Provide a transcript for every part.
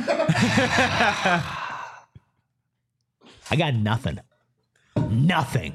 I got nothing. Nothing.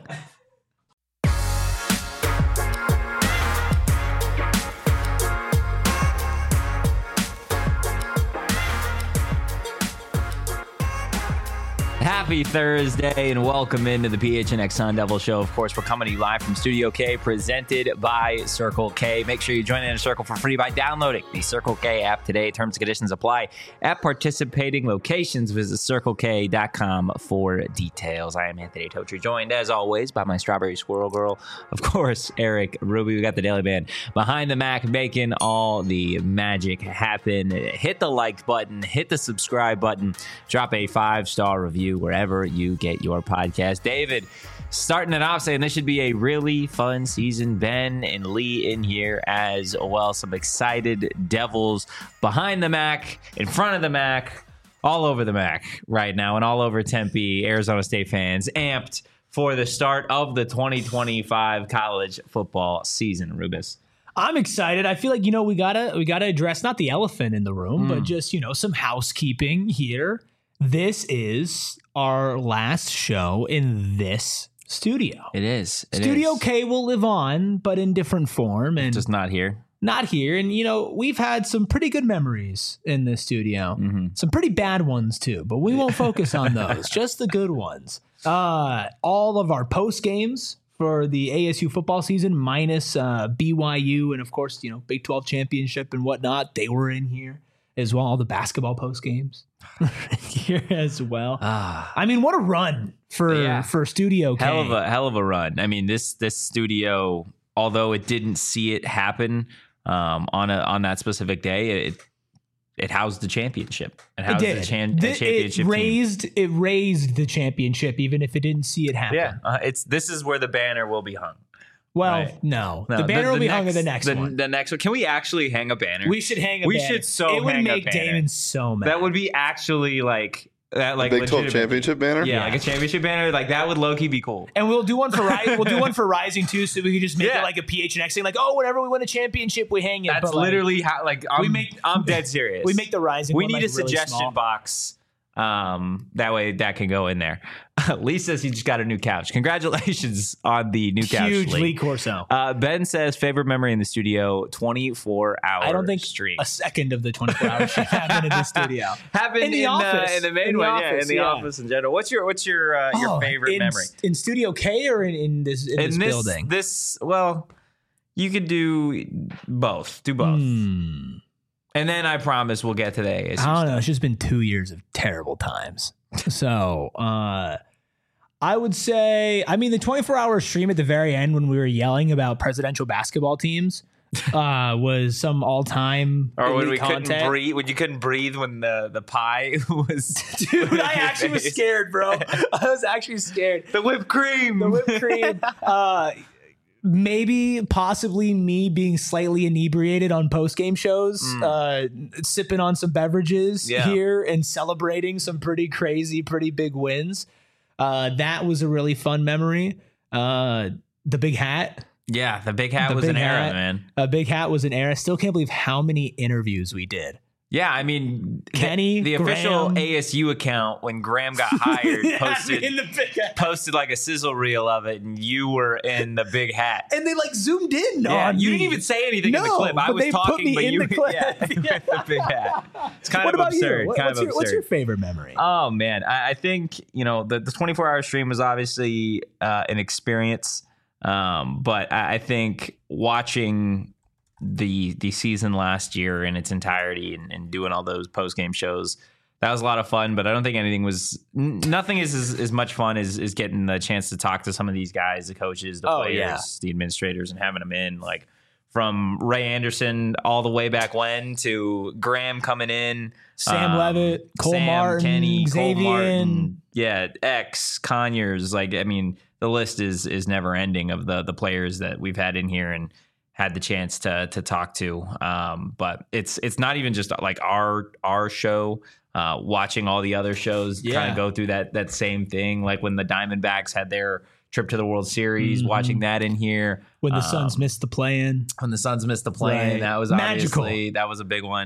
Happy Thursday and welcome into the PHNX Sun Devil Show. Of course, we're coming to you live from Studio K, presented by Circle K. Make sure you join in a Circle for free by downloading the Circle K app today. Terms and conditions apply at participating locations. Visit CircleK.com for details. I am Anthony Totri, joined as always by my Strawberry Squirrel Girl, of course, Eric Ruby. We got the Daily Band behind the Mac, making all the magic happen. Hit the like button, hit the subscribe button, drop a 5-star review wherever you get your podcast. David, starting it off saying this should be a really fun season. Ben and Lee in here as well. Some excited Devils behind the Mac, in front of the Mac, all over the Mac right now, and all over Tempe, Arizona State fans, amped for the start of the 2025 college football season. Rubus. I'm excited. I feel like, we gotta address not the elephant in the room, but just, some housekeeping here. This is our last show in this studio. It is. Studio K will live on, but in different form. And just not here. Not here. And, we've had some pretty good memories in this studio. Mm-hmm. Some pretty bad ones, too. But we won't focus on those. Just the good ones. All of our post games for the ASU football season, minus BYU and, of course, Big 12 championship and whatnot, they were in here as well. All the basketball post games here as well. I mean, what a run for Studio K. Hell of a run. I mean, this studio, although it didn't see it happen on that specific day, it housed the championship. It housed the championship. It raised the championship, even if it didn't see it happen. Yeah, this is where the banner will be hung. Well, right. No. The banner will be hung in the next one. The next one. Can we actually hang a banner? We should hang a banner. We should It would make Damon so mad. That would be actually like that, like Big 12 championship banner. Yeah, like a championship banner. Like that would low-key be cool. And we'll do one for Rising too, so we can just make it like a PHNX thing. Like, whenever we win a championship, we hang it. That's literally how. Like, I'm dead serious. We make the Rising. We one, need a really suggestion small box. That way that can go in there. Lee says he just got a new couch. Congratulations on the new couch. Huge Lee Corso. Ben says favorite memory in the studio, 24-hour I don't think stream. A second of the 24-hour stream happened in the studio. Happened in the office. In the main one, in the office in general. What's your favorite memory? In Studio K or in this building? Well, you could do both. Do both. And then I promise we'll get to the ASU I don't know. It's just been 2 years of terrible times. So I would say, the 24-hour stream at the very end when we were yelling about presidential basketball teams was some all-time or when we content. Couldn't breathe, when you couldn't breathe when the pie was. Dude, I actually was scared, bro. I was actually scared. The whipped cream. Maybe possibly me being slightly inebriated on post-game shows, sipping on some beverages here and celebrating some pretty crazy, pretty big wins. That was a really fun memory. The big hat. Yeah, the big hat was an era, man. A big hat was an era. Still can't believe how many interviews we did. Yeah, Kenny, the official ASU account when Graham got hired posted like a sizzle reel of it, and you were in the big hat, and they zoomed in. Yeah, you didn't even say anything in the clip. I was talking, but you in the clip. The big hat. It's kind of absurd. What's your favorite memory? Oh man, I think the 24-hour stream was obviously an experience, but I think watching the season last year in its entirety and doing all those post-game shows, that was a lot of fun, but I don't think nothing is as much fun as getting the chance to talk to some of these guys, the coaches, the players, the administrators, and having them in, like from Ray Anderson all the way back when to Graham coming in, Sam Levitt, Cole Martin, Kenny, Xavier, Cole Martin, X, Conyers, the list is never ending of the players that we've had in here and had the chance to talk to. But it's not even just like our show. Watching all the other shows kind of go through that same thing. Like when the Diamondbacks had their trip to the World Series, watching that in here. When the Suns missed the play-in. That was magical. Obviously, that was a big one.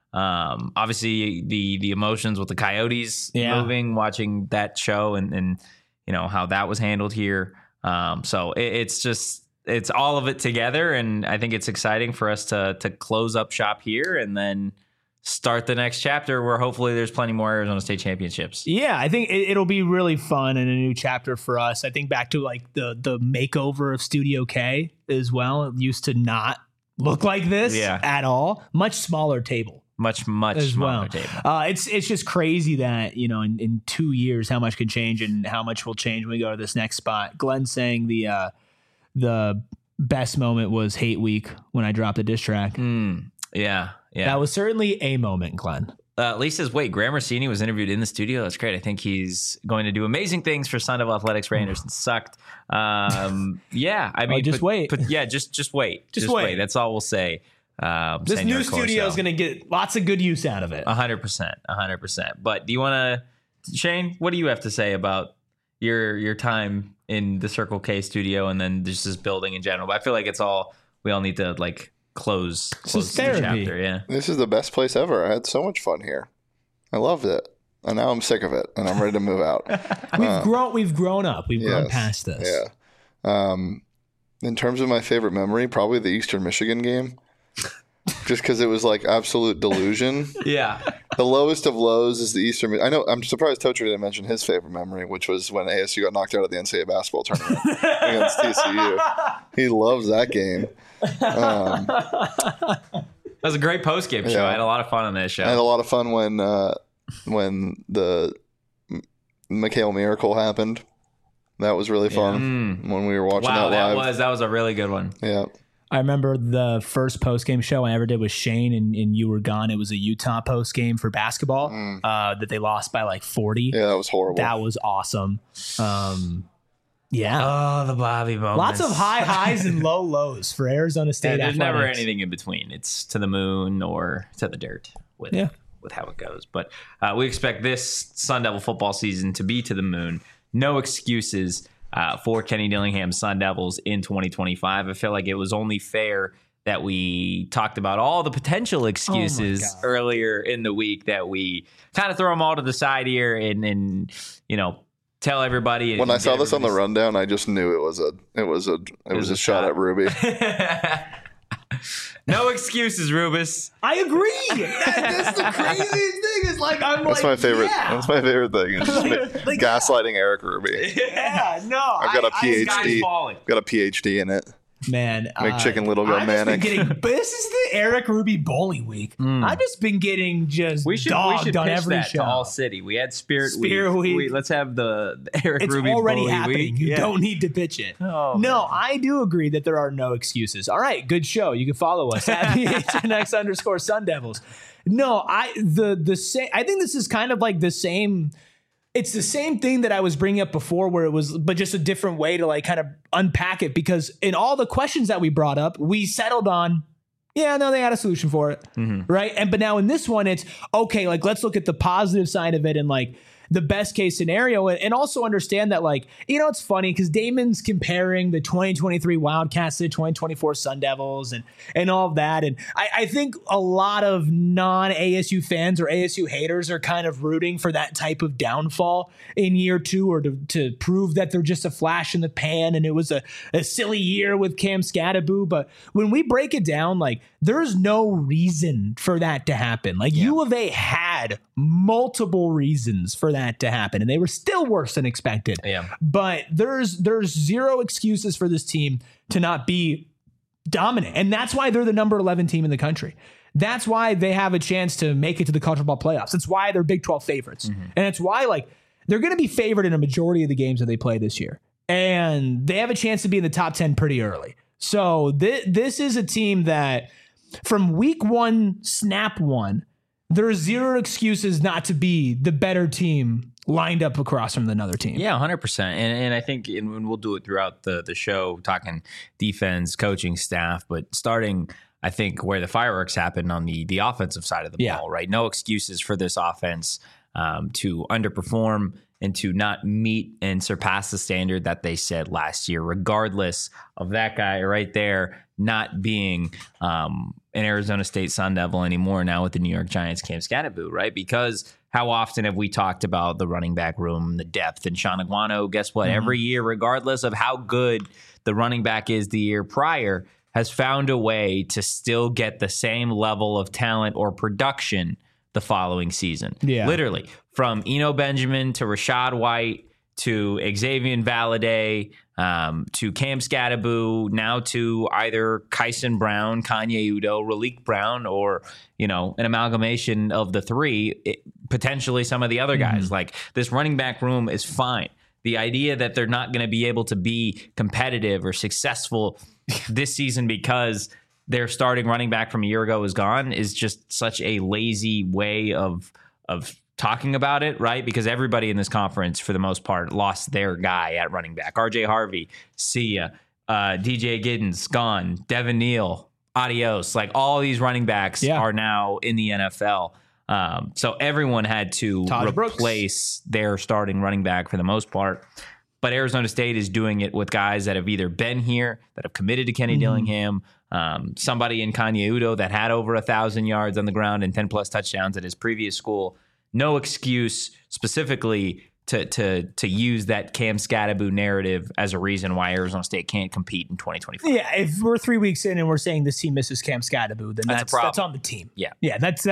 Obviously, the emotions with the Coyotes moving, watching that show, and how that was handled here. So it's all of it together, and I think it's exciting for us to close up shop here and then start the next chapter where hopefully there's plenty more Arizona State championships. Yeah, I think it'll be really fun and a new chapter for us. I think back to like the makeover of Studio K as well. It used to not look like this at all. Much smaller table. Much smaller table. It's just crazy that, in 2 years, how much can change and how much will change when we go to this next spot. Glenn saying the best moment was Hate Week when I dropped the diss track. Yeah. That was certainly a moment, Glenn. Lee says, wait, Graham Rossini was interviewed in the studio. That's great. I think he's going to do amazing things for Sun Devil Athletics. Ray Anderson sucked. Yeah, I mean, just wait. Just wait. Just wait. That's all we'll say. This new studio is going to get lots of good use out of it. 100%. But do you want to, Shane, what do you have to say about your time in the Circle K studio and then just this building in general? But I feel like we all need to like close the chapter. Yeah, this is the best place ever. I had so much fun here. I loved it, and now I'm sick of it, and I'm ready to move out. We've grown up. We've grown past this. Yeah. In terms of my favorite memory, probably the Eastern Michigan game, just because it was like absolute delusion. Yeah. The lowest of lows is the Eastern. I know. I'm surprised Tocher didn't mention his favorite memory, which was when ASU got knocked out of the NCAA basketball tournament against TCU. He loves that game. That was a great post-game show. I had a lot of fun on that show. I had a lot of fun when the McHale Miracle happened. That was really fun when we were watching that live. That was a really good one. Yeah. I remember the first post-game show I ever did with Shane and you were gone. It was a Utah post-game for basketball that they lost by like 40. Yeah, that was horrible. That was awesome. Yeah. Oh, the Bobby moments. Lots of high highs and low lows for Arizona State. There's athletics. never anything in between. It's to the moon or to the dirt with how it goes. But we expect this Sun Devil football season to be to the moon. No excuses for Kenny Dillingham's Sun Devils in 2025. I feel like it was only fair that we talked about all the potential excuses earlier in the week, that we kind of throw them all to the side here and tell everybody. When I saw this on the rundown, I just knew it was a shot at Ruby. No excuses, Rubus. I agree. That's the craziest thing. Is like that's my favorite. Yeah. That's my favorite thing. It's just like, gaslighting Eric Ruby. Yeah, no. I've got a PhD. Got a PhD in it. Man, make Chicken Little go manic. This is the Eric Ruby Bully Week. I've just been getting dogged on every show. To All City. We had Spirit Week. Let's have the Eric Ruby Bully Week. It's already happening. You don't need to pitch it. Oh, no, man. I do agree that there are no excuses. All right, good show. You can follow us at PHNX_Sun Devils. No, I think this is kind of like the same. It's the same thing that I was bringing up before, where it was, but just a different way to like kind of unpack it, because in all the questions that we brought up, we settled on, they had a solution for it. Right. But now in this one, it's okay. Like, let's look at the positive side of it and like the best case scenario, and also understand that, like, it's funny because Damon's comparing the 2023 Wildcats to the 2024 Sun Devils and all of that. And I think a lot of non-ASU fans or ASU haters are kind of rooting for that type of downfall in year two, or to prove that they're just a flash in the pan and it was a silly year with Cam Scattaboo. But when we break it down, like, there's no reason for that to happen. Like, U of A had multiple reasons for that to happen, and they were still worse than expected. Yeah. But there's zero excuses for this team to not be dominant, and that's why they're the number 11 team in the country. That's why they have a chance to make it to the college football playoffs. That's why they're Big 12 favorites, and it's why, like, they're going to be favored in a majority of the games that they play this year, and they have a chance to be in the top 10 pretty early. So this is a team that, from week one, snap one, there are zero excuses not to be the better team lined up across from another team. Yeah, 100%. And I think, and we'll do it throughout the show, talking defense, coaching staff, but starting, I think, where the fireworks happen on the offensive side of the ball, right? No excuses for this offense to underperform and to not meet and surpass the standard that they set last year, regardless of that guy right there not being an Arizona State Sun Devil anymore now with the New York Giants Cam Skattebo, right? Because how often have we talked about the running back room, the depth, and Sean Aguano? Guess what? Every year, regardless of how good the running back is the year prior, has found a way to still get the same level of talent or production the following season. Yeah. Literally, from Eno Benjamin to Rashad White to Xavier Valladay, to Cam Skattebo, now to either Kyson Brown, Kanye Udo, Raleek Brown, or, an amalgamation of the three, potentially some of the other guys. Like, this running back room is fine. The idea that they're not going to be able to be competitive or successful this season because their starting running back from a year ago is gone is just such a lazy way of talking about it, right? Because everybody in this conference, for the most part, lost their guy at running back. RJ Harvey, see ya. DJ Giddens, gone. Devin Neal, adios. Like, all these running backs are now in the NFL. So everyone had to replace their starting running back for the most part. But Arizona State is doing it with guys that have either been here, that have committed to Kenny Dillingham, somebody in Kanye Udo that had over 1,000 yards on the ground and 10-plus touchdowns at his previous school. No excuse specifically to use that Cam Skattebo narrative as a reason why Arizona State can't compete in 2024. Yeah, if we're 3 weeks in and we're saying this team misses Cam Skattebo, then that's on the team. Yeah, that's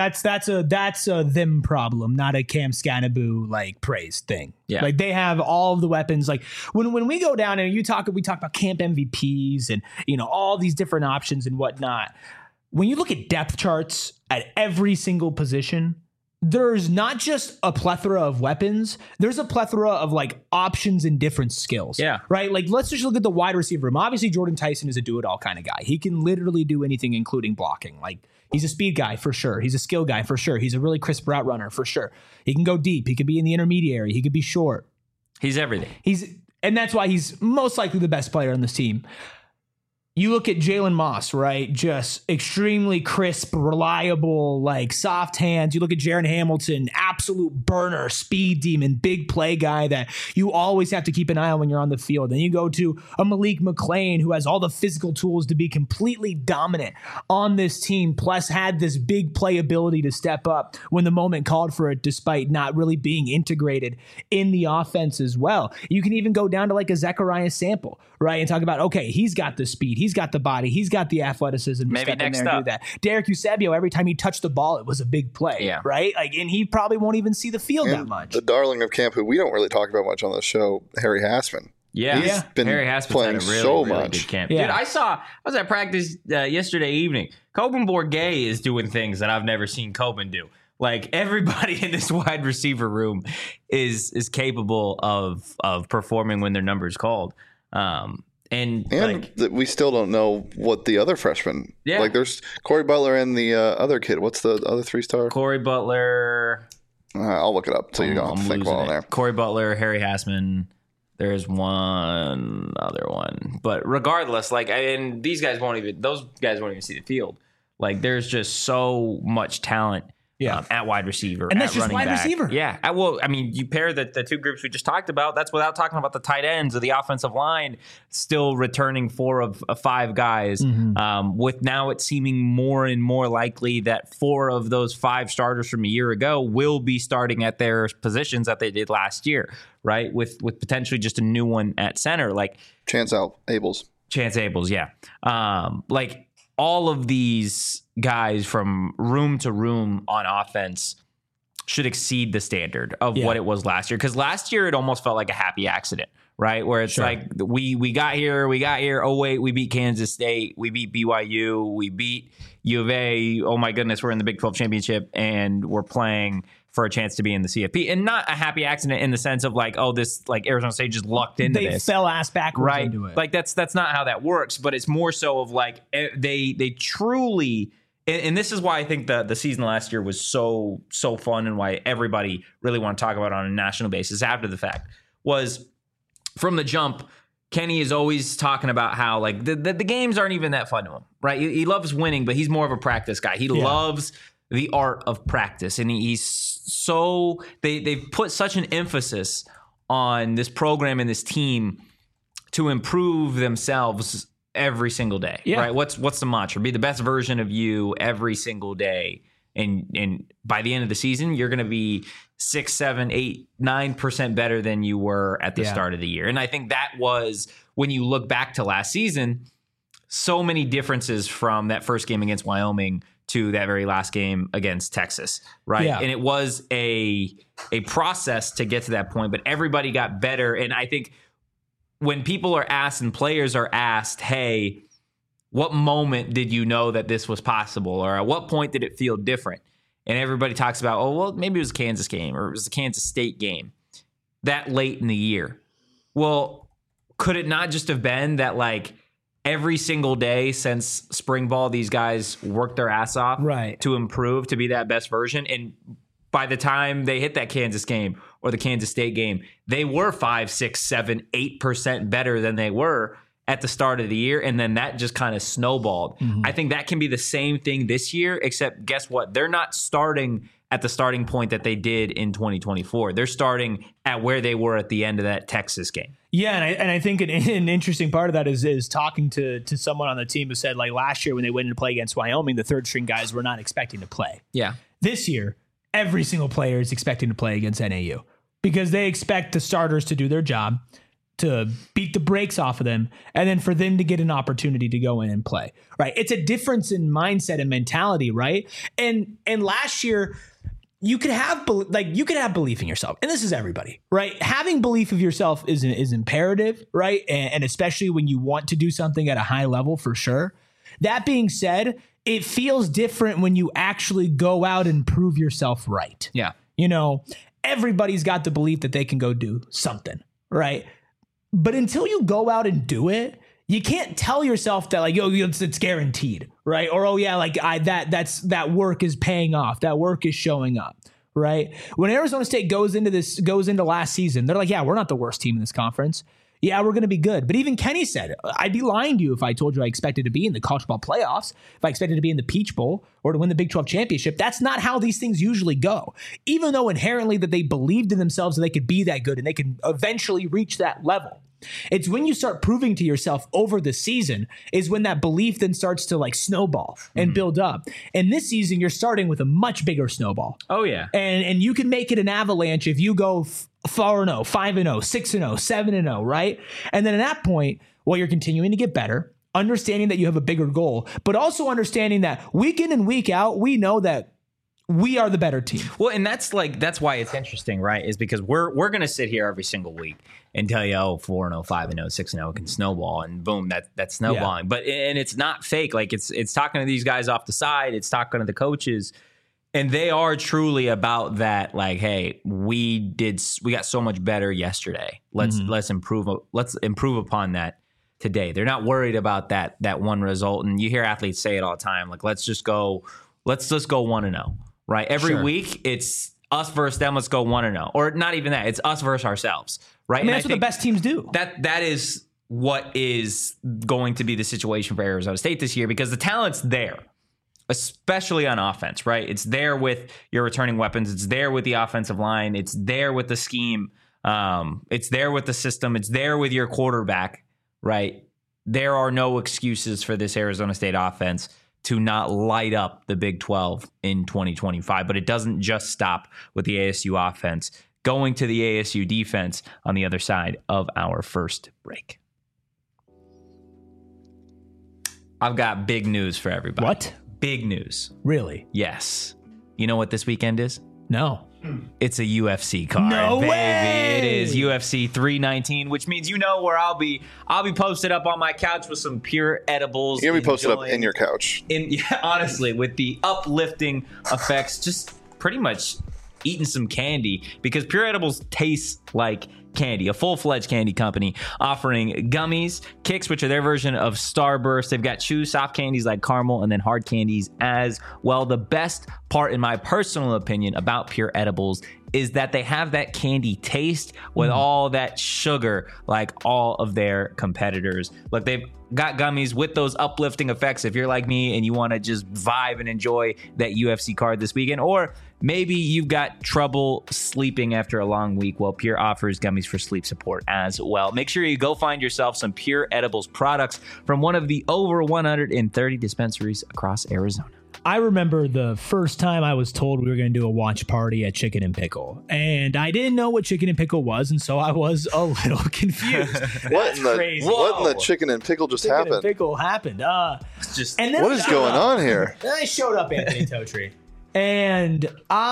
a them problem, not a Cam Skattebo like praise thing. Yeah, like they have all of the weapons. Like when we go down and we talk about camp MVPs and all these different options and whatnot. When you look at depth charts at every single position, there's not just a plethora of weapons. There's a plethora of like options and different skills. Yeah. Right. Like, let's just look at the wide receiver room. Obviously, Jordan Tyson is a do-it-all kind of guy. He can literally do anything, including blocking. Like, he's a speed guy for sure. He's a skill guy for sure. He's a really crisp route runner for sure. He can go deep. He can be in the intermediary. He could be short. He's everything. And that's why he's most likely the best player on this team. You look at Jalen Moss, right? Just extremely crisp, reliable, like soft hands. You look at Jaron Hamilton, absolute burner, speed demon, big play guy that you always have to keep an eye on when you're on the field. Then you go to a Malik McClain who has all the physical tools to be completely dominant on this team, plus had this big play ability to step up when the moment called for it, despite not really being integrated in the offense as well. You can even go down to like a Zechariah Sample, right? And talk about, okay, he's got the speed. He's got the body. He's got the athleticism. Maybe step next in there and up. do that. Derek Eusebio, every time he touched the ball, it was a big play, right? Like, and he probably won't even see the field that much. The darling of camp, who we don't really talk about much on the show, Harry Hassman. Yeah, He's been Harry Hassman's playing had a really, so really much. good camp. Yeah. Dude, I was at practice yesterday evening. Coben Bourget is doing things that I've never seen Coben do. Like, everybody in this wide receiver room is capable of performing when their number's called. And like, we still don't know what the other freshmen. Yeah. Like, there's Corey Butler and the other kid. What's the other 3-star? Corey Butler. I'll look it up so you don't have to think about it there. Corey Butler, Harry Hassman. There's one other one. But regardless, like, and those guys won't even see the field. Like, there's just so much talent. At wide receiver, and that's at just running wide back. receiver. Yeah, well, I mean, you pair the two groups we just talked about. That's without talking about the tight ends or the offensive line still returning 4 of 5 guys. With now it seeming more and more likely that 4 of those 5 starters from a year ago will be starting at their positions that they did last year, right? With potentially just a new one at center, like Chance Abels, yeah. Like, all of these guys from room to room on offense should exceed the standard of what it was last year. Because last year it almost felt like a happy accident, right? Where it's like we got here. Oh, wait, we beat Kansas State. We beat BYU. We beat U of A. Oh, my goodness, we're in the Big 12 championship and we're playing for a chance to be in the CFP. And not a happy accident in the sense of like, oh, this, like, Arizona State just lucked into this. They fell ass backwards into it. Like, that's not how that works. But it's more so of like they truly. And this is why I think the season last year was so fun and why everybody really want to talk about it on a national basis after the fact was from the jump. Kenny is always talking about how like the games aren't even that fun to him, right? He loves winning, but he's more of a practice guy. He loves the art of practice, and he's so they've put such an emphasis on this program and this team to improve themselves every single day, right? What's the mantra? Be the best version of you every single day. And by the end of the season, you're going to be 6, 7, 8, 9% better than you were at the start of the year. And I think that was, when you look back to last season, so many differences from that first game against Wyoming to that very last game against Texas, right? And it was a process to get to that point, but everybody got better. And I think when people are asked and players are asked, hey, what moment did you know that this was possible? Or at what point did it feel different? And everybody talks about, oh, well, maybe it was a Kansas game or it was a Kansas State game that late in the year. Well, could it not just have been that, like, every single day since spring ball, these guys worked their ass off to improve, to be that best version? And by the time they hit that Kansas game or the Kansas State game, they were 5, 6, 7, 8% better than they were at the start of the year, and then that just kind of snowballed. I think that can be the same thing this year, except guess what? They're not starting at the starting point that they did in 2024. They're starting at where they were at the end of that Texas game. Yeah, and I think an interesting part of that is talking to someone on the team who said, like, last year when they went to play against Wyoming, the third string guys were not expecting to play. Yeah. This year, every single player is expecting to play against NAU because they expect the starters to do their job, to beat the brakes off of them, and then for them to get an opportunity to go in and play, right? It's a difference in mindset and mentality, right? And last year, you could have belief in yourself, and this is everybody, right? Having belief of yourself is imperative, right? And especially when you want to do something at a high level, for sure. That being said, it feels different when you actually go out and prove yourself right. Yeah, everybody's got the belief that they can go do something, right? But until you go out and do it, you can't tell yourself that, like, yo, it's guaranteed, right? Or, oh yeah, like that work is paying off. That work is showing up, right? When Arizona State goes into last season, they're like, yeah, we're not the worst team in this conference. Yeah, we're going to be good. But even Kenny said, I'd be lying to you if I told you I expected to be in the college football playoffs, if I expected to be in the Peach Bowl or to win the Big 12 championship. That's not how these things usually go. Even though inherently that they believed in themselves that they could be that good and they could eventually reach that level. It's when you start proving to yourself over the season is when that belief then starts to, like, snowball and build up. And this season, you're starting with a much bigger snowball. Oh, yeah. And you can make it an avalanche if you go 4-0, 5-0, 6-0, 7-0, right? And then at that point, well, you're continuing to get better, understanding that you have a bigger goal, but also understanding that week in and week out, we know that we are the better team. Well, and that's why it's interesting, right? Is because we're going to sit here every single week and tell you, oh, 4-0, 5-0, 6-0, it can snowball, and boom, that's snowballing. Yeah. But it's not fake. Like, it's talking to these guys off the side, it's talking to the coaches, and they are truly about that. Like, hey, we got so much better yesterday. Let's improve upon that today. They're not worried about that one result. And you hear athletes say it all the time, like, let's just go 1-0. Right. Every week it's us versus them. Let's go 1-0, or not even that. It's us versus ourselves. Right. I mean, that's what the best teams do. That is what is going to be the situation for Arizona State this year, because the talent's there, especially on offense. Right. It's there with your returning weapons. It's there with the offensive line. It's there with the scheme. It's there with the system. It's there with your quarterback. Right. There are no excuses for this Arizona State offense to not light up the Big 12 in 2025. But it doesn't just stop with the ASU offense. Going to the ASU defense on the other side of our first break. I've got big news for everybody. What? Big news. Really? Yes. You know what this weekend is? No. It's a UFC card. No baby. Way! It is UFC 319, which means where I'll be posted up on my couch with some pure edibles. You're gonna be posted up in your couch. Honestly, with the uplifting effects, just pretty much eating some candy, because Pure Edibles tastes like candy, a full-fledged candy company offering gummies, kicks, which are their version of Starburst. They've got chew soft candies like caramel, and then hard candies as well. The best part, in my personal opinion, about Pure Edibles is that they have that candy taste with all that sugar like all of their competitors. Look, they've got gummies with those uplifting effects if you're like me and you want to just vibe and enjoy that UFC card this weekend. Or maybe you've got trouble sleeping after a long week. Well, Pure offers gummies accessories for sleep support as well. Make sure you go find yourself some Pure Edibles products from one of the over 130 dispensaries across Arizona. I remember the first time I was told we were going to do a watch party at Chicken and Pickle, and I didn't know what Chicken and Pickle was, and so I was a little confused. What in the Chicken and Pickle just Chicken happened? and Pickle happened. And then What is going on here? Then I showed up, Anthony Totri, and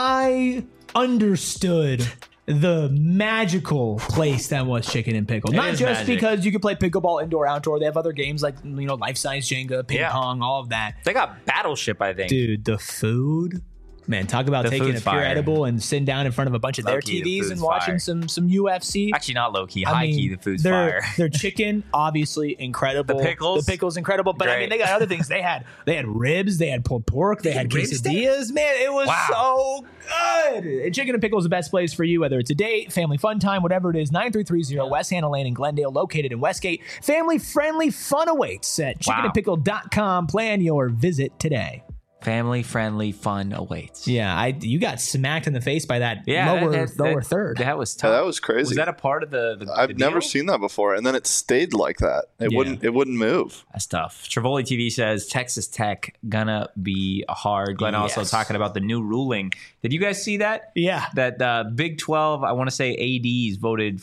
I understood the magical place that was Chicken and Pickle. Not just magic. because you can play pickleball indoor, outdoor. They have other games like, life-size Jenga, ping pong, all of that. They got Battleship, I think. Dude, the food. Man, talk about taking a food's pure fire. edible and sitting down in front of a bunch of their Low-key, the TVs and food's watching fire. some UFC. Actually, not low-key. High-key, the food's fire. Their chicken, obviously incredible. The pickles incredible. But I mean, great. they got other things. They had ribs. They had pulled pork. They had rib steak? quesadillas. Man, it was so good. And Chicken and Pickle is the best place for you, whether it's a date, family fun time, whatever it is. 9330 West Hannah Lane in Glendale, located in Westgate. Family-friendly fun awaits at chickenandpickle.com. Plan your visit today. Family-friendly fun awaits. Yeah, you got smacked in the face by that lower third. That was tough. Yeah, that was crazy. Was that a part of the I've never deal? seen that before, and then it stayed like that. It wouldn't move. That's tough. Trivoli TV says Texas Tech gonna be hard. Glenn also talking about the new ruling. Did you guys see that? Yeah. That Big 12, I want to say ADs voted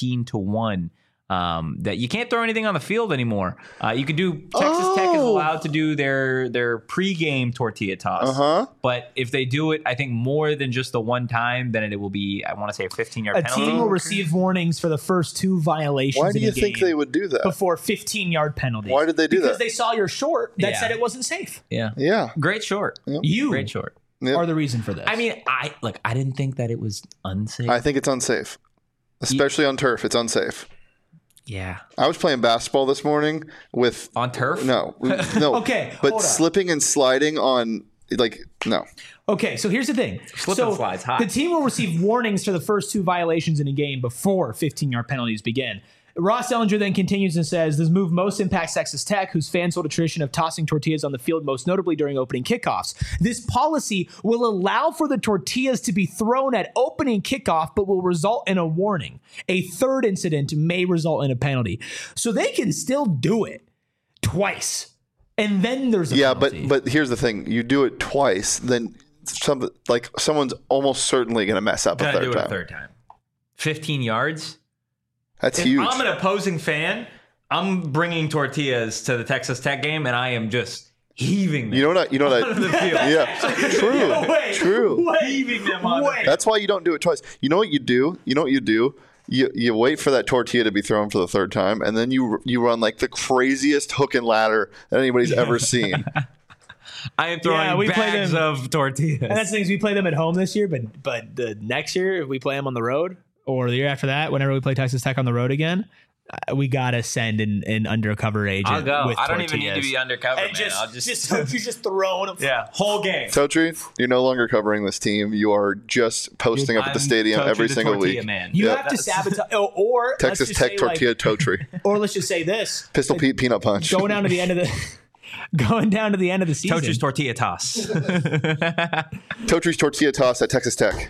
15-1. That you can't throw anything on the field anymore. You could do Texas Tech is allowed to do their pregame tortilla toss. But if they do it, I think more than just the one time, then it will be, I want to say, a 15-yard penalty. A team will receive warnings for the first 2 violations. Why do you think they would do that? Before 15-yard penalties? Why did they do that? Because they saw your short that said it wasn't safe. Yeah. Great short. You Great short. are the reason for this. I mean, I didn't think that it was unsafe. I think it's unsafe, especially on turf. It's unsafe. Yeah. I was playing basketball this morning with On turf? No. Okay, but hold on. slipping and sliding on no. Okay, so here's the thing. Slip and slide's hot. The team will receive warnings for the first 2 violations in a game before 15-yard penalties begin. Ross Ellinger then continues and says, this move most impacts Texas Tech, whose fans hold a tradition of tossing tortillas on the field, most notably during opening kickoffs. This policy will allow for the tortillas to be thrown at opening kickoff, but will result in a warning. A third incident may result in a penalty. So they can still do it twice. And then there's a penalty. but here's the thing. You do it twice, then someone's almost certainly going to mess up Gotta a third do it time. a third time. 15 yards? That's If huge. I'm an opposing fan, I'm bringing tortillas to the Texas Tech game, and I am just heaving them. You know what? onto the field. Yeah, true. Heaving them on the field. That's why you don't do it twice. You know what you do? You wait for that tortilla to be thrown for the third time, and then you run like the craziest hook and ladder that anybody's ever seen. I am throwing we play bags them- of tortillas. And that's the things we play them at home this year, but the next year, if we play them on the road, or the year after that, whenever we play Texas Tech on the road again, we gotta send an undercover agent. I'll go. With I don't even need to tortillas. be undercover, And man. I'll just throwing them. whole game. Totri, you're no longer covering this team. You are just posting up at the stadium Totri every the single tortilla week. Man. You Yep. have to sabotage, or Texas let's just Tech say, tortilla Totri. or let's just say this: Pistol Pete peanut punch. going down to the end of the season. Tochi's tortilla toss. Totri's tortilla toss at Texas Tech.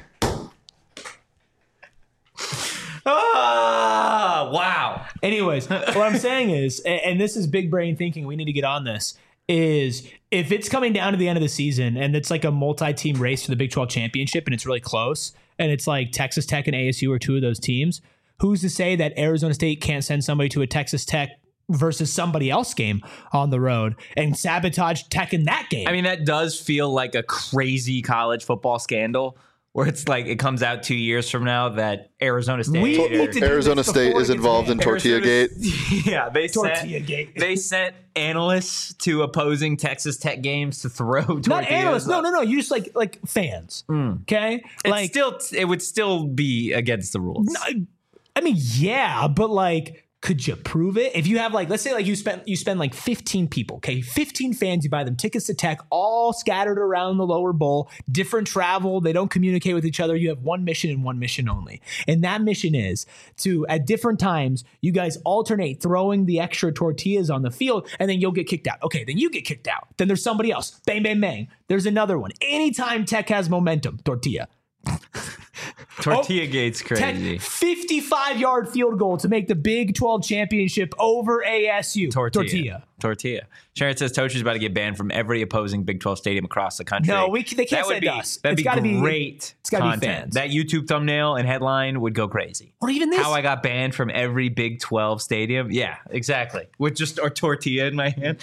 Wow. Anyways, what I'm saying is, and this is big brain thinking, we need to get on this, is if it's coming down to the end of the season and it's like a multi-team race for the Big 12 championship and it's really close and it's like Texas Tech and ASU are 2 of those teams, who's to say that Arizona State can't send somebody to a Texas Tech versus somebody else game on the road and sabotage Tech in that game? I mean, that does feel like a crazy college football scandal where it's like it comes out 2 years from now that Arizona State. We need to do Arizona this State before is it gets involved in banned. Tortilla Gate. Yeah, Tortilla-gate. they sent analysts to opposing Texas Tech games to throw tortillas. Not analysts. No. You just like fans. Okay? It would still be against the rules. I mean, yeah, but like, could you prove it? If you have like, let's say like you spend like 15 people, okay? 15 fans, you buy them tickets to Tech, all scattered around the lower bowl, different travel, they don't communicate with each other. You have one mission and one mission only. And that mission is to, at different times, you guys alternate throwing the extra tortillas on the field, and then you'll get kicked out. Okay, then you get kicked out. Then there's somebody else. Bang, bang, bang. There's another one. Anytime Tech has momentum, tortilla. Tortilla Gate's crazy. 55-yard field goal to make the Big 12 championship over ASU. Tortilla. Sharon says Tochi's about to get banned from every opposing Big 12 stadium across the country. No, they can't send us. That'd It's be great. It's got to be content. fans. That YouTube thumbnail and headline would go crazy. Or even this. How I got banned from every Big 12 stadium. Yeah, exactly. With just a tortilla in my hand.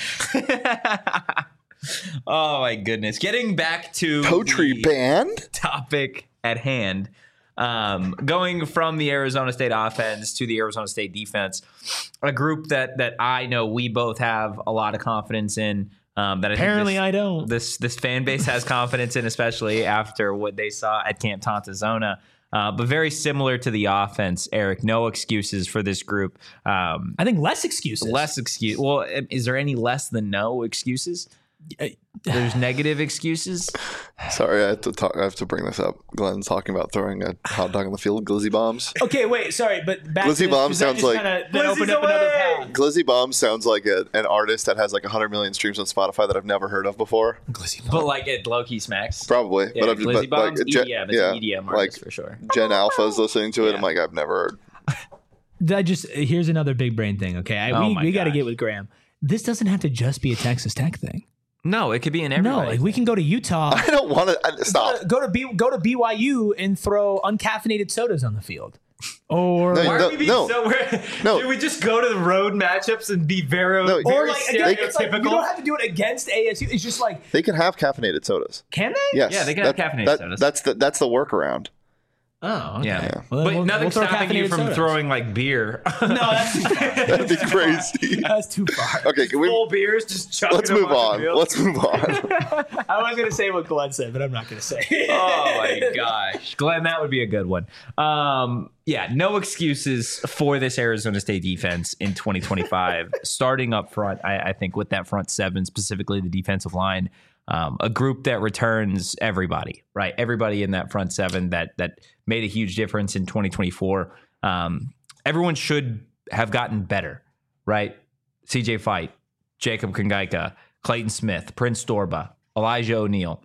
Oh my goodness. Getting back to Totri banned? Topic at hand. Going from the Arizona State offense to the Arizona State defense, a group that I know we both have a lot of confidence in. That Apparently I don't. This fan base has confidence in, especially after what they saw at Camp Tontozona. But very similar to the offense, Eric. No excuses for this group. I think less excuses. Well, is there any less than no excuses? There's negative excuses. Sorry, I have to bring this up. Glenn's talking about throwing a hot dog on the field. Glizzy bombs. Okay, wait, sorry, but back Glizzy to Bomb sounds like open up another path. Glizzy Bomb sounds like an artist that has like 100 million streams on Spotify that I've never heard of before. But like it low-key smacks. Probably. Yeah, but Glizzy Bomb's like, EDM. It's an EDM artist like for sure. Gen Alpha's listening to it. Yeah. I'm like, I've never heard. Here's another big brain thing, okay? We got to get with Graham. This doesn't have to just be a Texas Tech thing. No, it could be in everybody. No, like we can go to Utah. I don't want to stop. Go to BYU and throw uncaffeinated sodas on the field. Or No, Why are we being no. so weird? No. Should we just go to the road matchups and be very, No. very or like again, it's like, you stereotypical? don't have to do it against ASU. It's just like, They can have caffeinated sodas. can they? Yes. Yeah, they can have caffeinated sodas. That's the workaround. Oh, okay. Yeah. Well, But we'll nothing's throw stopping you caffeinated from sodas. throwing like beer. No, that's too far. That'd be crazy. That's too far. Okay, can we? Full beers, just chucking Let's them move the on. field. Let's move on. I was going to say what Glenn said, but I'm not going to say. Oh my gosh, Glenn, that would be a good one. Yeah, no excuses for this Arizona State defense in 2025. Starting up front, I think with that front seven, specifically the defensive line, a group that returns everybody, right? Everybody in that front seven that made a huge difference in 2024. Everyone should have gotten better, right? CJ Fight, Jacob Kongaika, Clayton Smith, Prince Storba, Elijah O'Neal.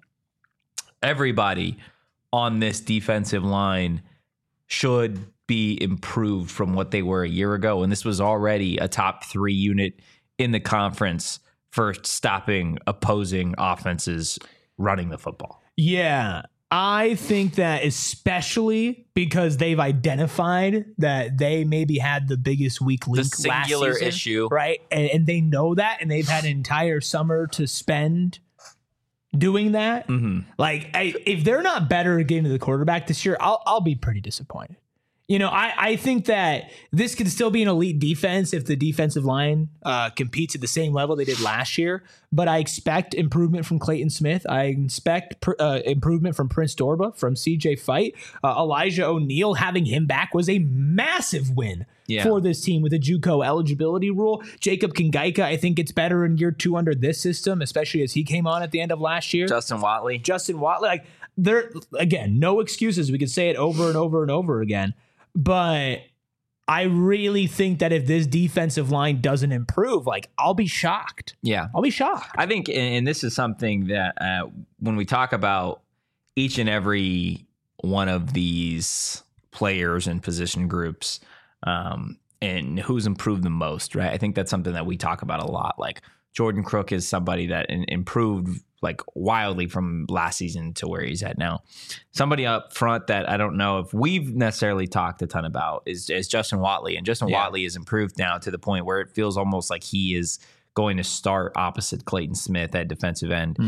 Everybody on this defensive line should be improved from what they were a year ago. And this was already a top 3 unit in the conference for stopping opposing offenses running the football. Yeah, I think that especially because they've identified that they maybe had the biggest weak link The singular last season, issue. right? And they know that, and they've had an entire summer to spend doing that. Mm-hmm. Like, if they're not better at getting to the quarterback this year, I'll be pretty disappointed. You know, I think that this could still be an elite defense if the defensive line competes at the same level they did last year. But I expect improvement from Clayton Smith. I expect improvement from Prince Dorba, from CJ Fight. Elijah O'Neal, having him back was a massive win for this team with a JUCO eligibility rule. Jacob Kongaika, I think it's better in year 2 under this system, especially as he came on at the end of last year. Justin Watley, like there again, no excuses. We could say it over and over and over again. But I really think that if this defensive line doesn't improve, like, I'll be shocked. Yeah. I'll be shocked. I think, and this is something that when we talk about each and every one of these players and position groups and who's improved the most, right? I think that's something that we talk about a lot. Like Jordan Crook is somebody that improved like wildly from last season to where he's at now. Somebody up front that I don't know if we've necessarily talked a ton about is Justin Watley. And Justin Watley has improved now to the point where it feels almost like he is going to start opposite Clayton Smith at defensive end.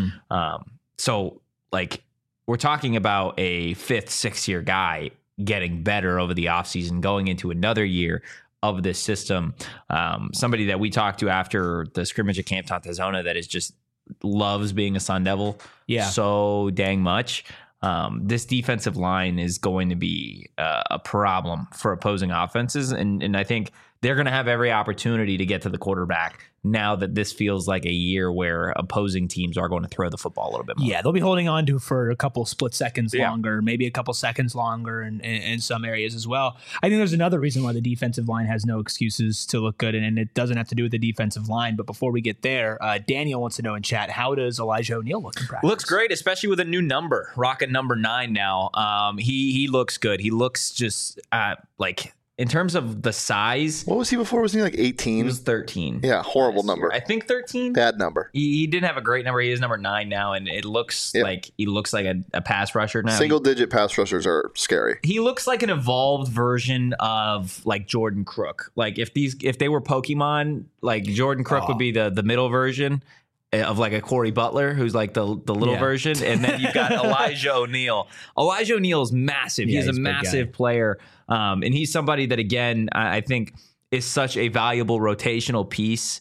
So like we're talking about a 5th, 6th year guy getting better over the offseason, going into another year of this system. Somebody that we talked to after the scrimmage at Camp Tontozona that is just loves being a Sun Devil so dang much. This defensive line is going to be a problem for opposing offenses. And I think they're going to have every opportunity to get to the quarterback now that this feels like a year where opposing teams are going to throw the football a little bit more. Yeah, they'll be holding on to for a couple split seconds longer, maybe a couple seconds longer in some areas as well. I think there's another reason why the defensive line has no excuses to look good, and it doesn't have to do with the defensive line. But before we get there, Daniel wants to know in chat, how does Elijah O'Neal look in practice? Looks great, especially with a new number, rocking number 9 now. He looks good. He looks just like... In terms of the size, what was he before? Was he like 18? He was 13. Yeah, horrible number. I think 13. Bad number. He didn't have a great number. He is number 9 now, and it looks like he looks like a pass rusher now. Single-digit pass rushers are scary. He looks like an evolved version of like Jordan Crook. Like if they were Pokemon, like Jordan Crook would be the middle version of like a Corey Butler, who's like the little version, and then you've got Elijah O'Neal. Elijah O'Neal is massive. He's a massive player, and he's somebody that, again, I think is such a valuable rotational piece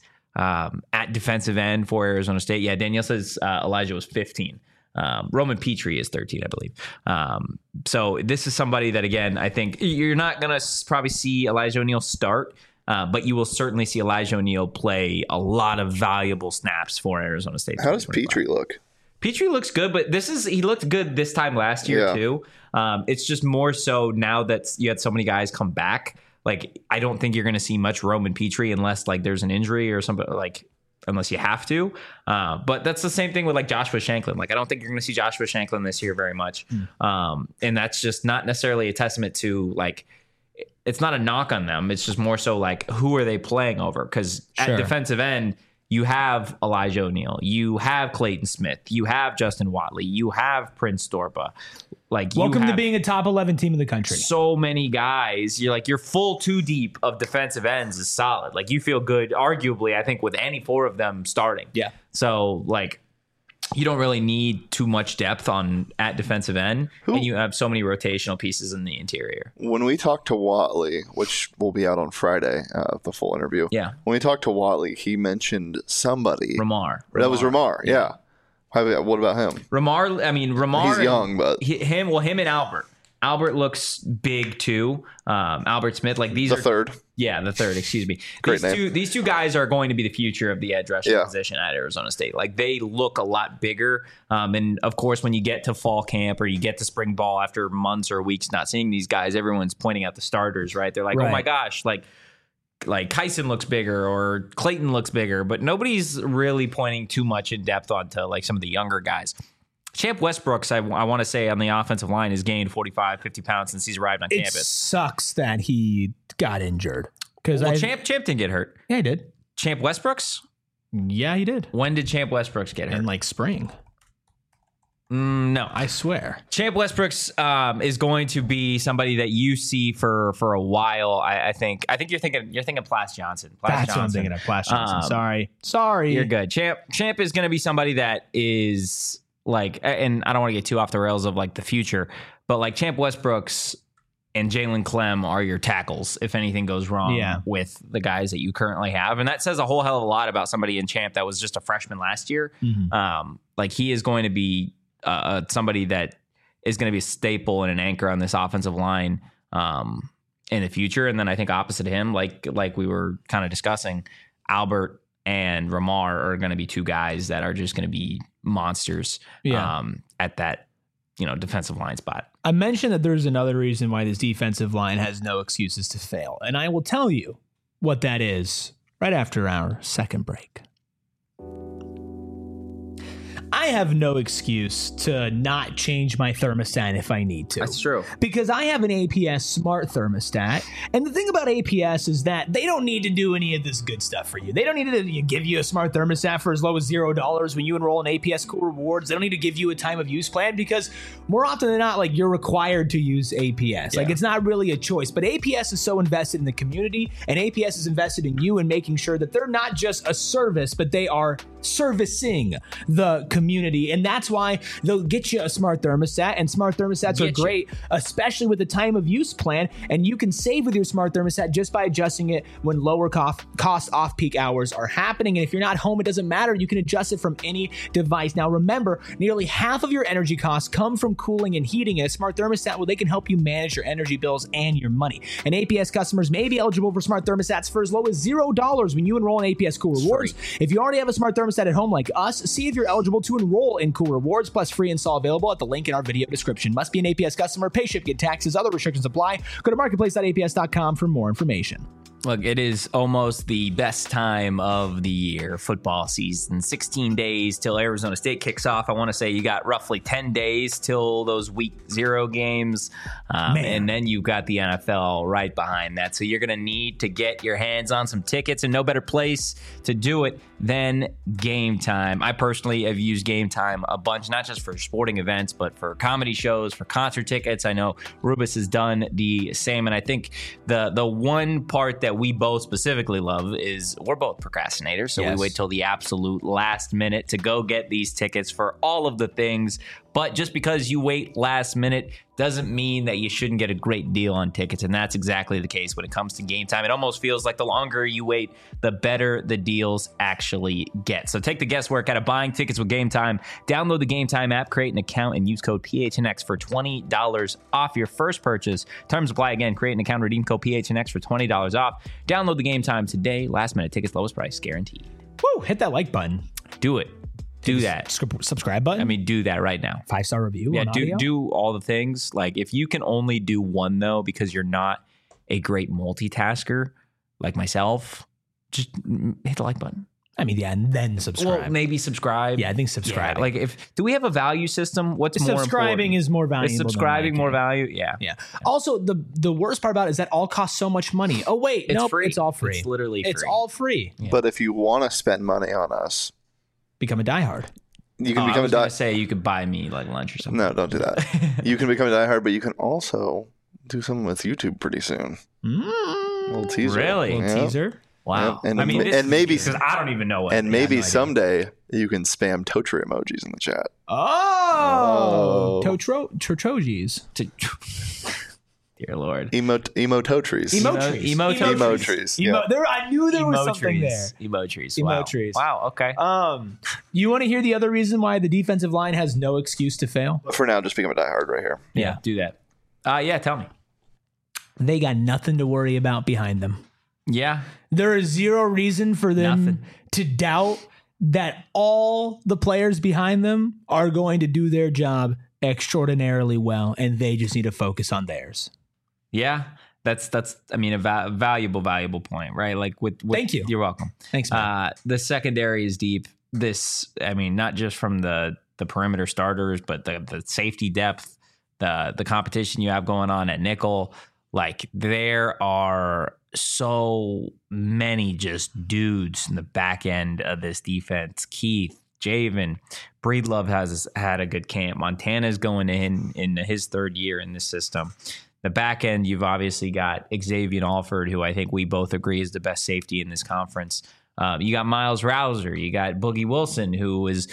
at defensive end for Arizona State. Yeah, Danielle says Elijah was 15. Roman Petrie is 13, I believe. So this is somebody that, again, I think you're not going to probably see Elijah O'Neal start, but you will certainly see Elijah O'Neal play a lot of valuable snaps for Arizona State. How does Petrie look? Petrie looks good, but he looked good this time last year too. It's just more so now that you had so many guys come back. Like, I don't think you're going to see much Roman Petrie unless like there's an injury or something, like unless you have to. But that's the same thing with like Joshua Shanklin. Like, I don't think you're going to see Joshua Shanklin this year very much. And that's just not necessarily a testament to like, it's not a knock on them. It's just more so like, who are they playing over? Because at defensive end, you have Elijah O'Neal, you have Clayton Smith, you have Justin Watley, you have Prince Dorpa. Like, welcome to being a top 11 team in the country. So many guys. You're full 2 deep of defensive ends is solid. Like, you feel good, arguably, I think, with any 4 of them starting. Yeah. So like, you don't really need too much depth at defensive end, and you have so many rotational pieces in the interior. When we talked to Watley, which will be out on Friday, the full interview. Yeah. When we talked to Watley, he mentioned somebody. Ramar. That was Ramar. Yeah. What about him? Ramar. He's young, but him and Albert. Albert looks big too. Albert Smith, like these the third. Yeah, the third. Excuse me. Great name. These two guys are going to be the future of the edge rusher position at Arizona State. Like, they look a lot bigger. And of course, when you get to fall camp or you get to spring ball after months or weeks not seeing these guys, everyone's pointing out the starters, right? They're like, oh my gosh, like Kyson looks bigger or Clayton looks bigger, but nobody's really pointing too much in depth onto like some of the younger guys. Champ Westbrooks, I want to say, on the offensive line has gained 45, 50 pounds since he's arrived on campus. It sucks that he got injured. Champ didn't get hurt. Yeah, he did. Champ Westbrooks? Yeah, he did. When did Champ Westbrooks get hurt? In like spring. No, I swear. Champ Westbrooks is going to be somebody that you see for a while. I think you're thinking Plas Johnson. That's what I'm thinking of. Plas Johnson. Sorry. You're good. Champ is going to be somebody that is like, and I don't want to get too off the rails of like the future, but like Champ Westbrooks and Jalen Clem are your tackles if anything goes wrong with the guys that you currently have. And that says a whole hell of a lot about somebody in Champ that was just a freshman last year. Like, he is going to be somebody that is going to be a staple and an anchor on this offensive line in the future. And then I think opposite him, like we were kind of discussing, Albert and Ramar are going to be 2 guys that are just going to be monsters at that, defensive line spot. I mentioned that there's another reason why this defensive line has no excuses to fail. And I will tell you what that is right after our second break. I have no excuse to not change my thermostat if I need to. That's true. Because I have an APS smart thermostat. And the thing about APS is that they don't need to do any of this good stuff for you. They don't need to give you a smart thermostat for as low as $0 when you enroll in APS Cool Rewards. They don't need to give you a time of use plan, because more often than not, like, you're required to use APS. Like, it's not really a choice. But APS is so invested in the community, and APS is invested in you and making sure that they're not just a service, but they are servicing the community. And that's why they'll get you a smart thermostat, and smart thermostats are great, especially with the time of use plan. And you can save with your smart thermostat just by adjusting it when lower cost off-peak hours are happening. And if you're not home, it doesn't matter. You can adjust it from any device. Now, remember, nearly half of your energy costs come from cooling and heating. And a smart thermostat, well, they can help you manage your energy bills and your money. And APS customers may be eligible for smart thermostats for as low as $0 when you enroll in APS Cool Rewards. If you already have a smart thermostat at home like us, see if you're eligible to enroll in Cool Rewards, plus free install available at the link in our video description. Must be an APS customer. Pay ship, get taxes. Other restrictions apply. Go to marketplace.aps.com for more information. Look, it is almost the best time of the year, football season. 16 days till Arizona State kicks off. I want to say you got roughly 10 days till those week 0 games. And then you've got the NFL right behind that. So you're going to need to get your hands on some tickets, and no better place to do it than Game Time. I personally have used Game Time a bunch, not just for sporting events, but for comedy shows, for concert tickets. I know Rubus has done the same. And I think the one part that we both specifically love is we're both procrastinators. So we wait till the absolute last minute to go get these tickets for all of the things. But just because you wait last minute doesn't mean that you shouldn't get a great deal on tickets. And that's exactly the case when it comes to Game Time. It almost feels like the longer you wait, the better the deals actually get. So take the guesswork out of buying tickets with Game Time. Download the Game Time app, create an account, and use code PHNX for $20 off your first purchase. Terms apply again. Create an account, redeem code PHNX for $20 off. Download the Game Time today. Last minute tickets, lowest price guaranteed. Woo, hit that like button. Do it. Do that. Subscribe button. I mean, do that right now. 5-star review. Yeah, on audio? do all the things. Like, if you can only do one though, because you're not a great multitasker like myself, just hit the like button. I mean, yeah, and then subscribe. Well, maybe subscribe. Yeah, I think subscribe. Yeah, like, do we have a value system? What's more important? Subscribing is more valuable. Is subscribing more value? Yeah. Also, the worst part about it is that all costs so much money. Oh wait, It's nope, free. it's all free. It's literally free. It's all free. Yeah. But if you want to spend money on us, Become a diehard. you can I become was a gonna diehard. say you could buy me like lunch or something. No, don't do that. You can become a diehard, but you can also do something with YouTube pretty soon. Little teaser. Really? Little teaser. Wow. And, I mean, maybe because I don't even know what. and maybe someday you can spam Totri emojis in the chat. Oh, Totrojis. Dear Lord. Emototries. Emotries. Yeah. I knew there was something there. Emotries. Emotries. Wow. Okay. You want to hear the other reason why the defensive line has no excuse to fail? But for now, just become a diehard right here. Yeah. Do that. Yeah. Tell me. They got nothing to worry about behind them. Yeah. There is zero reason for them Nothing. to doubt that all the players behind them are going to do their job extraordinarily well, and they just need to focus on theirs. Yeah. That's I mean, a valuable point, right? Like with Thank you. You're welcome. Thanks, man. The secondary is deep. I mean, not just from the perimeter starters, but the safety depth, the competition you have going on at nickel. Like, there are so many just dudes in the back end of this defense. Keith, Javen, Breedlove has had a good camp. Montana's going in his third year in this system. The back end, you've obviously got Xavier Alford, who I think we both agree is the best safety in this conference. You got Miles Rouser. You got Boogie Wilson, who is,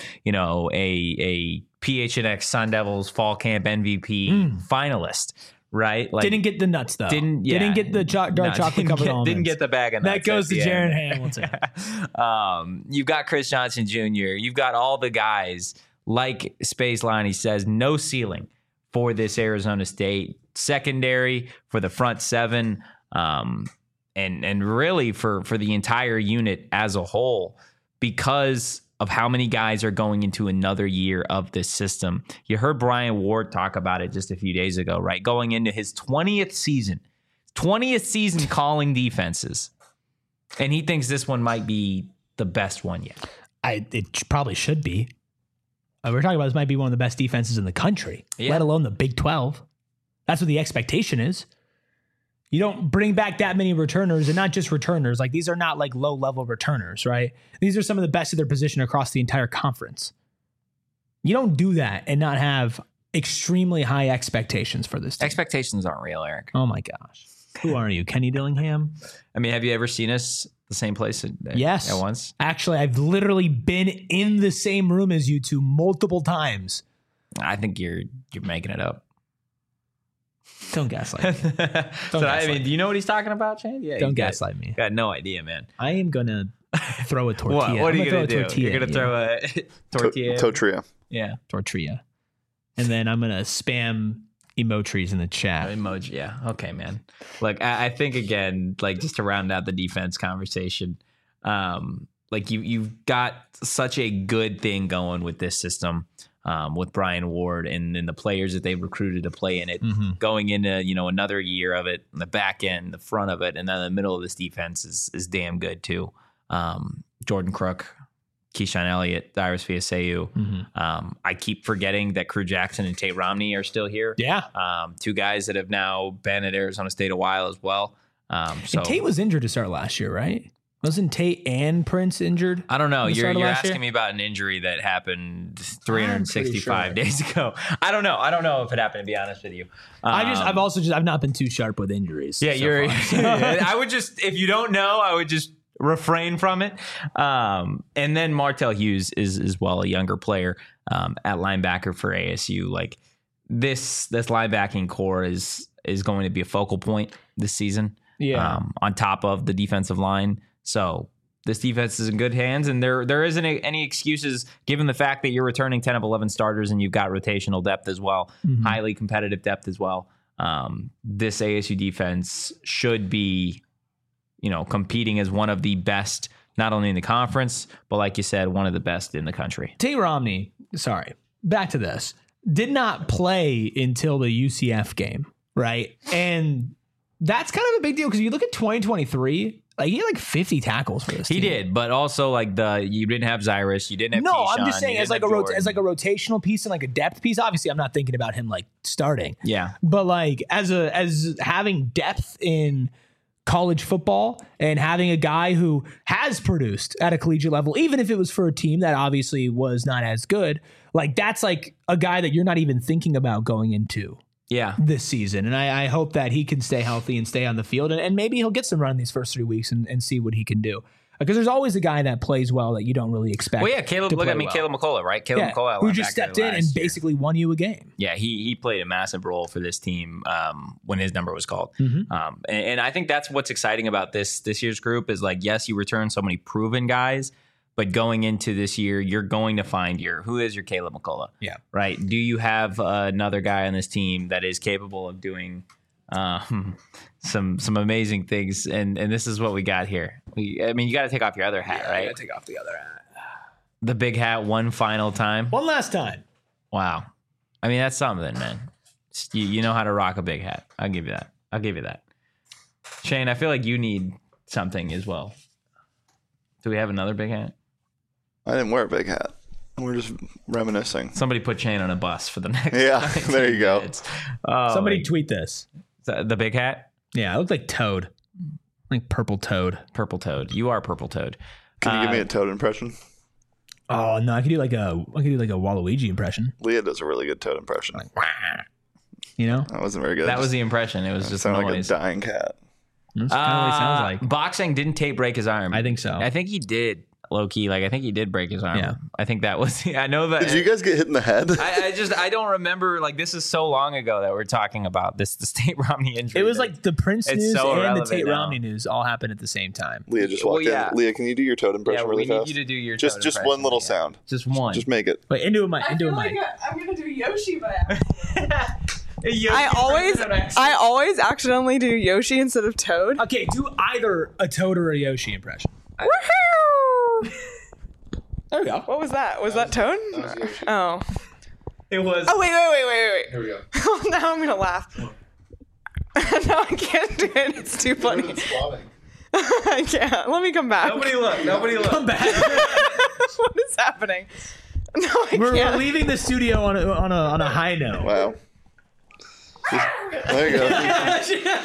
a PHNX Sun Devils Fall Camp MVP finalist. Right? Like, didn't get the nuts, though. Didn't get the dark chocolate covered almonds. Didn't get the bag of nuts. That goes to Jaron Hamilton. You've got Chris Johnson Jr. You've got all the guys, like Space Line, he says, no ceiling for this Arizona State secondary, for the front seven, and really for the entire unit as a whole, because of how many guys are going into another year of this system. You heard Brian Ward talk about it just a few days ago, right? Going into his 20th season calling defenses. And he thinks this one might be the best one yet. It probably should be. We're talking about this might be one of the best defenses in the country, let alone the Big 12. That's what the expectation is. You don't bring back that many returners, and not just returners. Like, these are not like low-level returners, right? These are some of the best of their position across the entire conference. You don't do that and not have extremely high expectations for this team. Expectations aren't real, Eric. Oh my gosh. Who are you, Kenny Dillingham? I mean, have you ever seen us the same place Yes. at once? Actually, I've literally been in the same room as you two multiple times. I think you're making it up. Don't gaslight me. I mean, do you know what he's talking about, Shane? Yeah. Don't gaslight me. Got no idea, man. I am going to throw a tortilla. What are you going going to do? You're going to throw a tortilla? Totria. Yeah. Tortilla. And then I'm going to spam emojis in the chat. Emoji, yeah. Okay, man. Like, I think, again, like, just to round out the defense conversation, like, you've got such a good thing going with this system. With Brian Ward and the players that they've recruited to play in it, going into another year of it, the back end, the front of it, and then the middle of this defense is damn good too. Jordan Crook, Keyshawn Elliott, Dyrus Viaseu. I keep forgetting that Crew Jackson and Tate Romney are still here. Yeah, two guys that have now been at Arizona State a while as well. So and Tate was injured to start last year, right? Wasn't Tate and Prince injured? I don't know. You're asking me about an injury that happened 365 days ago. I don't know. I don't know if it happened, to be honest with you. I've not been too sharp with injuries. Yeah, I would just, if you don't know, I would just refrain from it. And then Martell Hughes is as well a younger player at linebacker for ASU. Like this linebacking core is going to be a focal point this season. Yeah. On top of the defensive line. So this defense is in good hands, and there isn't any excuses given the fact that you're returning 10 of 11 starters and you've got rotational depth as well, highly competitive depth as well. This ASU defense should be, competing as one of the best, not only in the conference, but like you said, one of the best in the country. Tate Romney, back to this, did not play until the UCF game, right? And that's kind of a big deal because you look at 2023, like he had like 50 tackles for this team. He did, but also like you didn't have Zyrus, you didn't have No, Keyshawn, I'm just saying as like a rotational piece and like a depth piece. Obviously, I'm not thinking about him like starting. Yeah. But like as having depth in college football and having a guy who has produced at a collegiate level, even if it was for a team that obviously was not as good, like that's like a guy that you're not even thinking about going into this season. And I hope that he can stay healthy and stay on the field. And maybe he'll get some run these first 3 weeks and see what he can do. Because there's always a guy that plays well that you don't really expect. Well, yeah, Caleb McCullough, right? Caleb McCullough, who just stepped in and basically won you a game. Yeah, he played a massive role for this team when his number was called. And I think that's what's exciting about this year's group is like, yes, you return so many proven guys, but going into this year, you're going to find who is your Caleb McCullough? Yeah. Right. Do you have another guy on this team that is capable of doing some amazing things? And this is what we got here. You got to take off your other hat, right? You got to take off the other hat. The big hat one final time. One last time. Wow. I mean, that's something, man. You know how to rock a big hat. I'll give you that. Shane, I feel like you need something as well. Do we have another big hat? I didn't wear a big hat. We're just reminiscing. Somebody put Shane on a bus for the next. Yeah, there you go. Somebody tweet this. The big hat? Yeah, it looked like Toad. Like Purple Toad. Purple Toad. You are Purple Toad. Can you give me a Toad impression? Oh no, I could do like a Waluigi impression. Leah does a really good Toad impression. Like, that wasn't very good. That was the impression. It was just sounded noise. like a dying cat. That's kind of what it sounds like. Boxing, didn't Tate break his arm? I think so. I think he did. Low key, like I think he did break his arm. Yeah. I think that was. I know that. Did you guys get hit in the head? I don't remember. Like this is so long ago that we're talking about the Tate Romney injury. It was like the Prince news and the Tate now. Romney news all happened at the same time. Leah just walked in. Leah, can you do your Toad impression really fast? We need you to do your just one little sound. Just one. Just make it. Wait, into a mic. I'm gonna do Yoshi by accident. I always accidentally do Yoshi instead of Toad. Okay, do either a Toad or a Yoshi impression. Woohoo! There we go. What was that? Was that Toad? Oh. It was. Oh, wait. Here we go. Now I'm gonna laugh. No, I can't do it. It's too funny. I can't. Let me come back. Nobody look. Come back. What is happening? No, I can't. We're leaving the studio on a high note. Wow. There you go.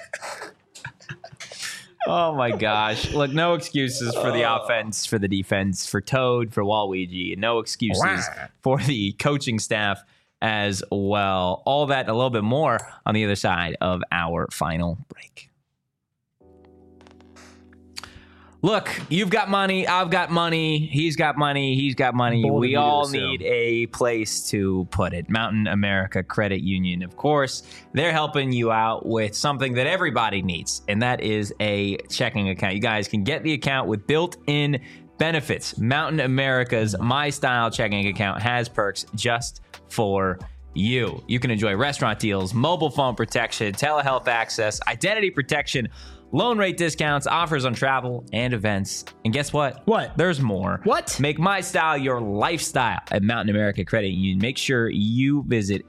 Oh my gosh. Look, no excuses for the offense, for the defense, for Toad, for Waluigi, and no excuses for the coaching staff as well. All that and a little bit more on the other side of our final break. Look, you've got money. I've got money. He's got money. He's got money. Bold of We you to all assume. need a place to put it. Mountain America Credit Union, of course, they're helping you out with something that everybody needs, and that is a checking account. You guys can get the account with built-in benefits. Mountain America's My Style checking account has perks just for you. You can enjoy restaurant deals, mobile phone protection, telehealth access, identity protection, loan rate discounts, offers on travel and events. And guess what? What? There's more. What? Make My Style your lifestyle at Mountain America Credit Union. Make sure you visit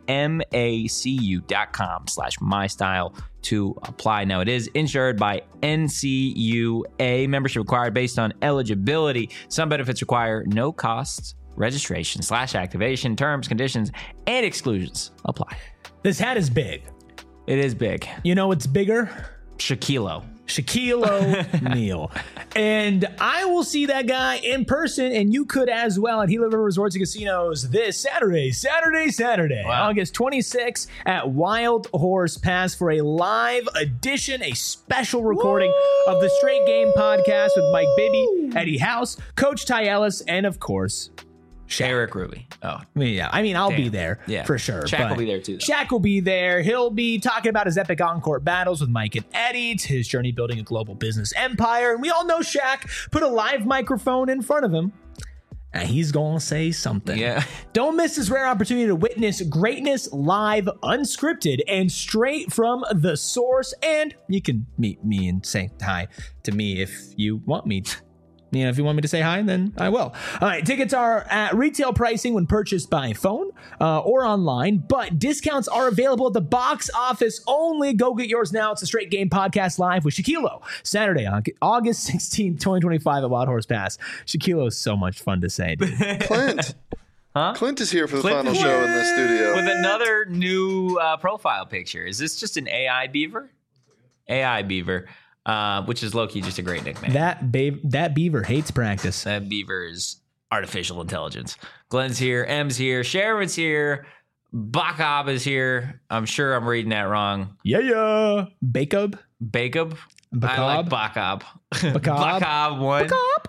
macu.com/mystyle to apply. Now, it is insured by NCUA. Membership required based on eligibility. Some benefits require no costs. Registration/activation, terms, conditions, and exclusions apply. This hat is big. It is big. You know what's bigger? Shaquille. Shaquille O'Neal. And I will see that guy in person, and you could as well at Gila River Resorts and Casinos this Saturday, Wow. August 26th at Wild Horse Pass for a live edition, a special recording of the Straight Game podcast with Mike Bibby, Eddie House, Coach Ty Ellis, and of course, Eric Ruby. Oh, I'll be Damn. there Yeah. for sure. Shaq will but be there too, though. Shaq will be there. He'll be talking about his epic on-court battles with Mike and Eddie, his journey building a global business empire. And we all know Shaq put a live microphone in front of him, and he's going to say something. Yeah. Don't miss this rare opportunity to witness greatness live, unscripted, and straight from the source. And you can meet me and say hi to me if you want me to. You know, if you want me to say hi, then I will. All right, tickets are at retail pricing when purchased by phone or online, but discounts are available at the box office only. Go get yours now. It's a Straight Game podcast live with Shaquille. Saturday, August 16th, 2025 at Wild Horse Pass. Shaquille is so much fun to say, dude. Clint. Huh? Clint is here for the Clint final is show here in the studio. With another new profile picture. Is this just an AI beaver? AI beaver, which is low-key just a great nickname. That beaver hates practice. That beaver is artificial intelligence. Glenn's here. M's here. Sharon's here. Bakab is here. I'm sure I'm reading that wrong. Yeah. Bacob? Bakab? Bakab? I like Bakab. Bakab? Bakab one.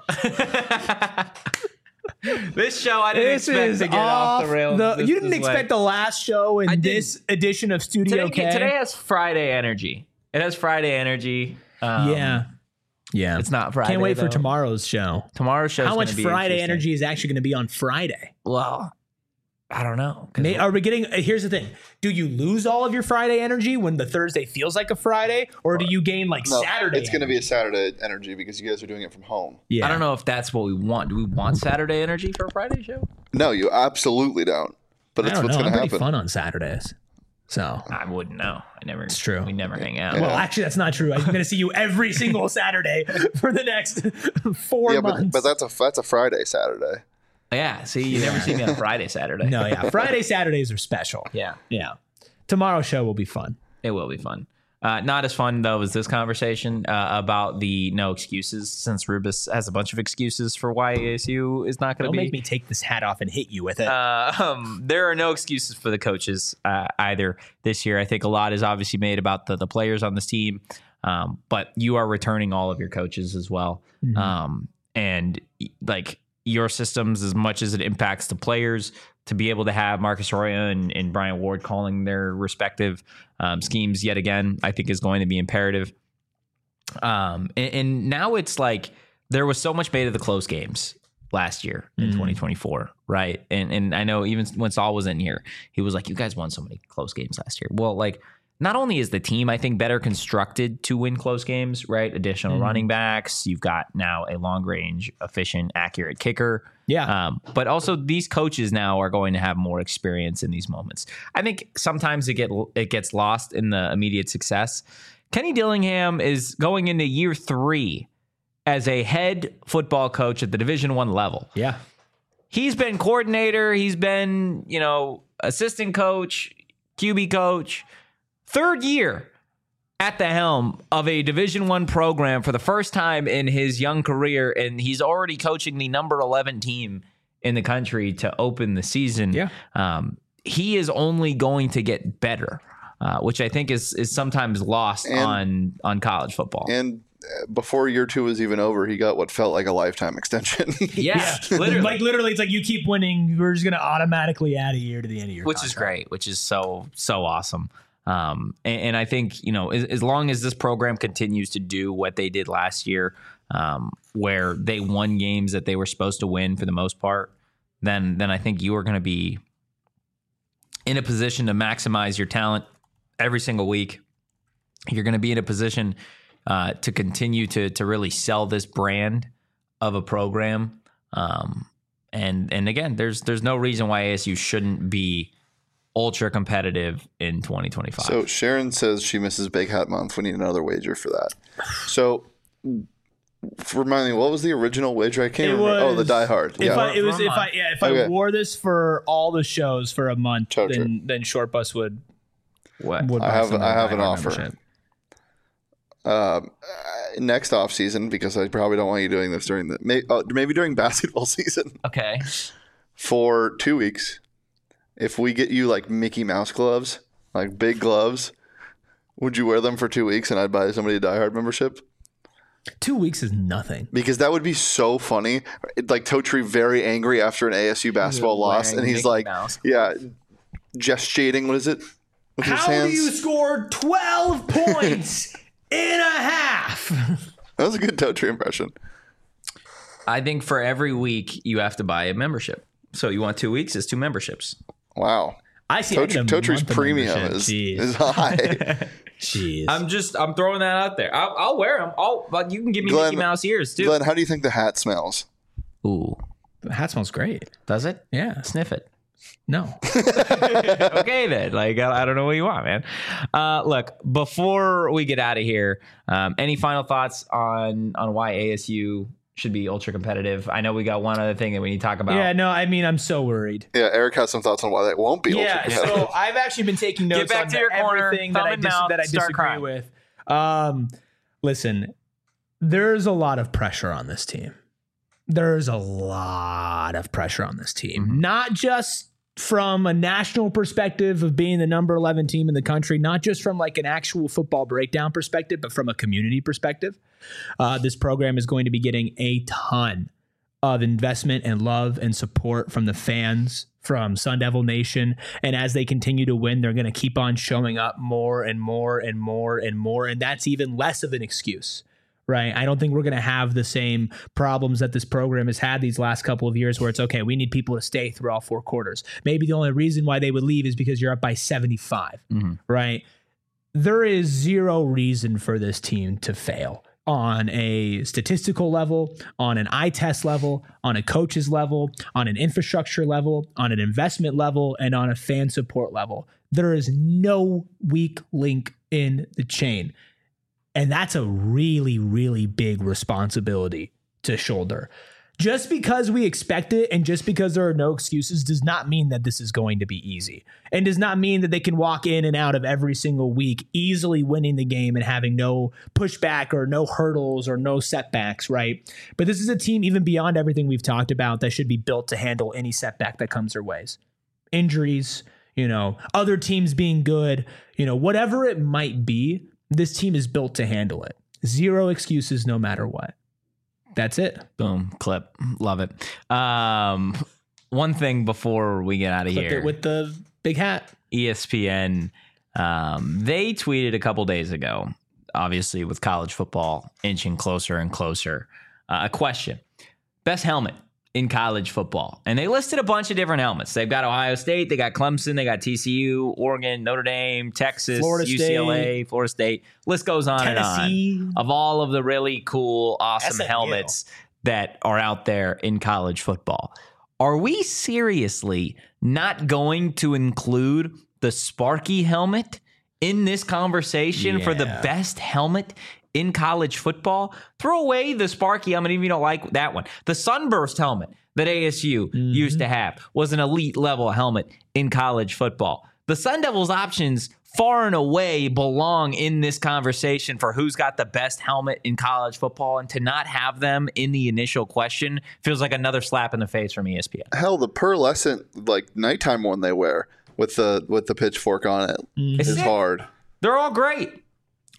This show I didn't expect to get off the rails. You didn't expect the last show in this edition of Studio K? Today has Friday energy. It has Friday energy. Yeah. It's not Friday. Can't wait for though. tomorrow's show. Tomorrow's show. How much Friday energy is actually going to be on Friday? Well, I don't know. 'Cause Are we getting? Here's the thing: do you lose all of your Friday energy when the Thursday feels like a Friday, or do you gain like No, Saturday? it's going to be a Saturday energy because you guys are doing it from home. Yeah. I don't know if that's what we want. Do we want Saturday energy for a Friday show? No, you absolutely don't. But I it's don't what's know. going I'm to pretty happen. fun on Saturdays. So. I wouldn't know. It's true. We never hang out. Well, actually, that's not true. I'm going to see you every single Saturday for the next 4 Yeah, months. but that's a Friday, Saturday. Yeah. See, you never see me on a Friday, Saturday. No, yeah. Friday, Saturdays are special. Yeah. Yeah. Tomorrow's show will be fun. It will be fun. Not as fun, though, as this conversation about the no excuses, since Rubus has a bunch of excuses for why ASU is not going to Don't be. make me take this hat off and hit you with it. There are no excuses for the coaches either this year. I think a lot is obviously made about the players on this team, but you are returning all of your coaches as well. And like your systems, as much as it impacts the players, to be able to have Marcus Arroyo and Brian Ward calling their respective schemes yet again, I think is going to be imperative. And now it's like there was so much made of the close games last year in 2024, right? And I know even when Saul was in here, he was like, you guys won so many close games last year. Well, like, not only is the team, I think, better constructed to win close games, right? Additional running backs. You've got now a long-range, efficient, accurate kicker. Yeah. But also these coaches now are going to have more experience in these moments. I think sometimes it gets lost in the immediate success. Kenny Dillingham is going into year 3 as a head football coach at the Division I level. Yeah. He's been coordinator. He's been, assistant coach, QB coach. 3rd year at the helm of a Division I program for the first time in his young career, and he's already coaching the number 11 team in the country to open the season. Yeah. He is only going to get better, which I think is sometimes lost on college football. And before year 2 was even over, he got what felt like a lifetime extension. Yeah, literally. It's like you keep winning, we're just going to automatically add a year to the end of your which contract. is great, which is so awesome. And I think, as long as this program continues to do what they did last year, where they won games that they were supposed to win for the most part, then I think you are going to be in a position to maximize your talent every single week. You're going to be in a position to continue to really sell this brand of a program. And again, there's no reason why ASU shouldn't be ultra competitive in 2025. So Sharon says she misses Big Hat Month. We need another wager for that. So remind me, what was the original wager? I can't remember. The Die Hard. If I wore this for all the shows for a month, then Short Bus would. What? Would I have an offer. Next off season, because I probably don't want you doing this during maybe during basketball season. Okay. For 2 weeks, if we get you like Mickey Mouse gloves, like big gloves, would you wear them for 2 weeks and I'd buy somebody a Die Hard membership? 2 weeks is nothing. Because that would be so funny. Like Totri very angry after an ASU basketball loss, and he's Mickey Mouse. Gestating. What is it? With his How hands? do you score 12 points in a half? That was a good Totri impression. I think for every week you have to buy a membership. So you want 2 weeks? It's 2 membersps. Wow. I see. Totri's premium is high. Jeez. I'm throwing that out there. I'll wear them. But you can give me Mickey Mouse ears too. Glenn, how do you think the hat smells? Ooh, the hat smells great. Does it? Yeah. Sniff it. No. Okay then. Like I don't know what you want, man. Look, before we get out of here, any final thoughts on why ASU should be ultra competitive? I know we got one other thing that we need to talk about. Yeah, no, I mean, I'm so worried. Yeah, Eric has some thoughts on why that won't be ultra competitive. So I've actually been taking notes back on to your corner, everything that I disagree crying. with. Listen, there's a lot of pressure on this team. There's a lot of pressure on this team. Mm-hmm. Not just from a national perspective of being the number 11 team in the country, not just from like an actual football breakdown perspective, but from a community perspective. This program is going to be getting a ton of investment and love and support from the fans, from Sun Devil Nation. And as they continue to win, they're going to keep on showing up more and more and more and more. And that's even less of an excuse. Right. I don't think we're going to have the same problems that this program has had these last couple of years where it's okay, we need people to stay through all 4 quarters. Maybe the only reason why they would leave is because you're up by 75. Mm-hmm. Right. There is zero reason for this team to fail on a statistical level, on an eye test level, on a coach's level, on an infrastructure level, on an investment level, and on a fan support level. There is no weak link in the chain. And that's a really, really big responsibility to shoulder. Just because we expect it and just because there are no excuses does not mean that this is going to be easy. And does not mean that they can walk in and out of every single week easily winning the game and having no pushback or no hurdles or no setbacks, right? But this is a team, even beyond everything we've talked about, that should be built to handle any setback that comes their ways. Injuries, other teams being good, whatever it might be. This team is built to handle it. Zero excuses, no matter what. That's it. Boom. Clip. Love it. One thing before we get out of here. With the big hat. ESPN, they tweeted a couple days ago, obviously with college football inching closer and closer, a question. Best helmet in college football. And they listed a bunch of different helmets. They've got Ohio State, they got Clemson, they got TCU, Oregon, Notre Dame, Texas, Florida UCLA, State. Florida State. List goes on Tennessee. and on of all of the really cool, awesome SMU. helmets that are out there in college football. Are we seriously not going to include the Sparky helmet in this conversation for the best helmet in college football? Throw away the Sparky helmet, even if you don't like that one. The Sunburst helmet that ASU used to have was an elite level helmet in college football. The Sun Devils options far and away belong in this conversation for who's got the best helmet in college football, and to not have them in the initial question feels like another slap in the face from ESPN. Hell, the pearlescent nighttime one they wear with the pitchfork on it is hard. They're all great.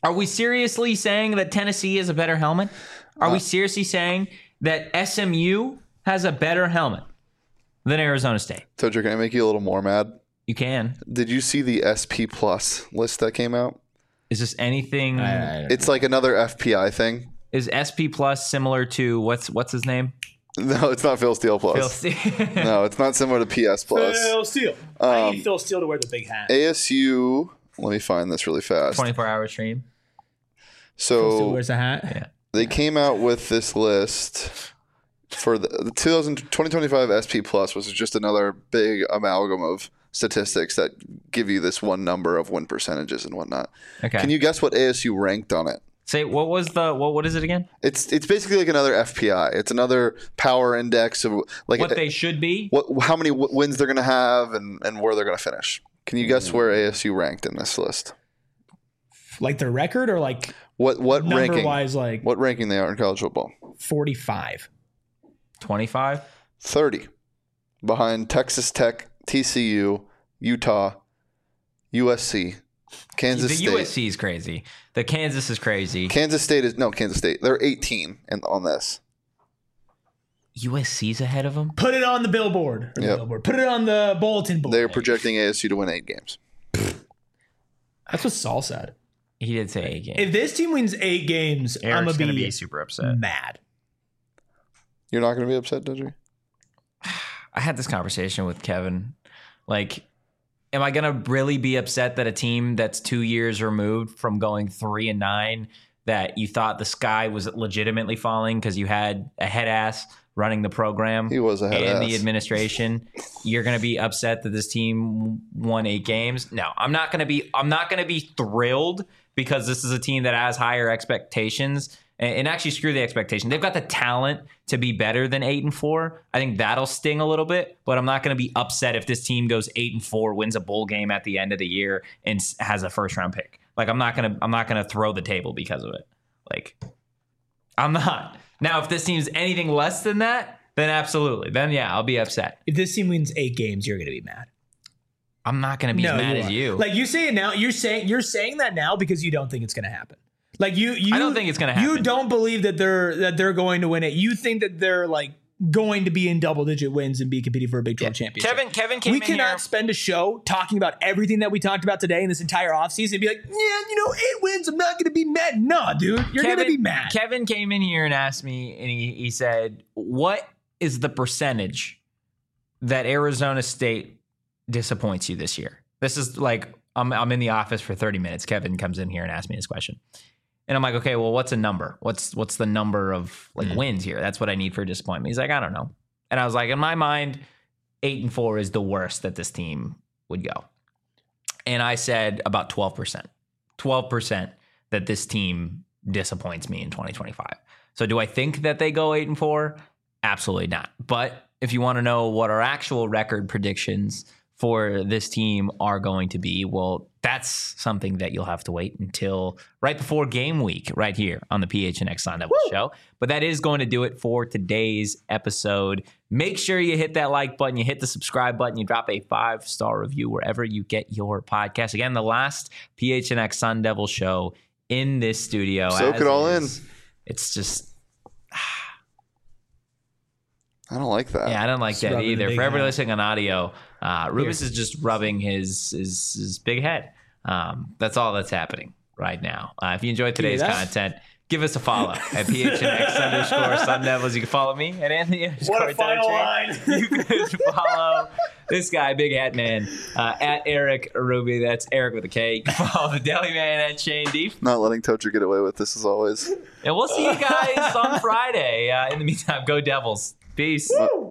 Are we seriously saying that Tennessee is a better helmet? Are we seriously saying that SMU has a better helmet than Arizona State? Tojo, can I make you a little more mad? You can. Did you see the SP Plus list that came out? Is this anything? It's like another FPI thing. Is SP Plus similar to what's his name? No, it's not Phil Steele Plus. Phil Steele. No, it's not similar to PS Plus. Phil Steele. I need Phil Steele to wear the big hat. ASU. Let me find this really fast. 24-hour stream. Phil Steele So wears a hat. Yeah. they came out with this list for the 2025 SP Plus, which is just another big amalgam of statistics that give you this one number of win percentages and whatnot. Okay. Can you guess what ASU ranked on it? Say what is it again? It's basically like another FPI. It's another power index of like What they should be? how many wins they're going to have and where they're going to finish. Can you guess where ASU ranked in this list? Like their record or like What number ranking? wise, like What ranking they are in college football? 45. 25? 30, behind Texas Tech, TCU, Utah, USC, Kansas The State. USC is crazy. The Kansas is crazy. Kansas State. They're 18 on this. USC's ahead of them? Put it on the billboard. Or the Yep. billboard. Put it on the bulletin board. They're projecting ASU to win 8 games. That's what Saul said. He did say 8 games. If this team wins 8 games, I'm Eric's going to be super upset. mad. You're not going to be upset, Dodger? I had this conversation with Kevin. Like, am I going to really be upset that a team that's 2 years removed from going 3-9, that you thought the sky was legitimately falling because you had a head ass running the program He was a head and ass. the administration, you're going to be upset that this team won 8 games? No, I'm not going to be thrilled because this is a team that has higher expectations. And actually, screw the expectation. They've got the talent to be better than 8-4. I think that'll sting a little bit, but I'm not going to be upset if this team goes 8-4, wins a bowl game at the end of the year, and has a first round pick. Like, I'm not gonna throw the table because of it. Like, I'm not. Now, if this team's anything less than that, then absolutely. Then yeah, I'll be upset. If this team wins 8 games, you're going to be mad. I'm not going to be as mad as are. you. Like you say it now, you're saying that now because you don't think it's going to happen. Like you I don't think it's going to happen. You don't believe that they're going to win it. You think that they're like going to be in double-digit wins and be competing for a Big 12 championship. Kevin came we in cannot here. spend a show talking about everything that we talked about today in this entire offseason and be like, yeah, 8 wins, I'm not going to be mad. Nah, dude, you're going to be mad. Kevin came in here and asked me, and he said, what is the percentage that Arizona State disappoints you this year? This is like, I'm in the office for 30 minutes. Kevin comes in here and asks me this question. And I'm like, okay, well, what's a number? What's the number of wins here? That's what I need for disappointment. He's like, I don't know. And I was like, in my mind, 8-4 is the worst that this team would go. And I said about 12%. 12% that this team disappoints me in 2025. So do I think that they go 8-4? Absolutely not. But if you want to know what our actual record predictions for this team are going to be, well, that's something that you'll have to wait until right before game week right here on the PHNX Sun Devils show. But that is going to do it for today's episode. Make sure you hit that like button, you hit the subscribe button, you drop a 5-star review wherever you get your podcast. Again, the last PHNX Sun Devil show in this studio. Soak it all in. It's just... I don't like that. Yeah, I don't like that rubbing either. the big For everybody head. listening on audio, Rubens is just rubbing his big head. That's all that's happening right now. If you enjoyed today's that? content, give us a follow at PHNX _Sun Devils. You can follow me at Anthony. What a final line. You can follow this guy, Big Hat Man, at Eric Ruby. That's Eric with a K. You can follow the Deli Man at Shane Deep. Not letting Tocher get away with this as always. And we'll see you guys on Friday. In the meantime, go Devils. Peace. Woo!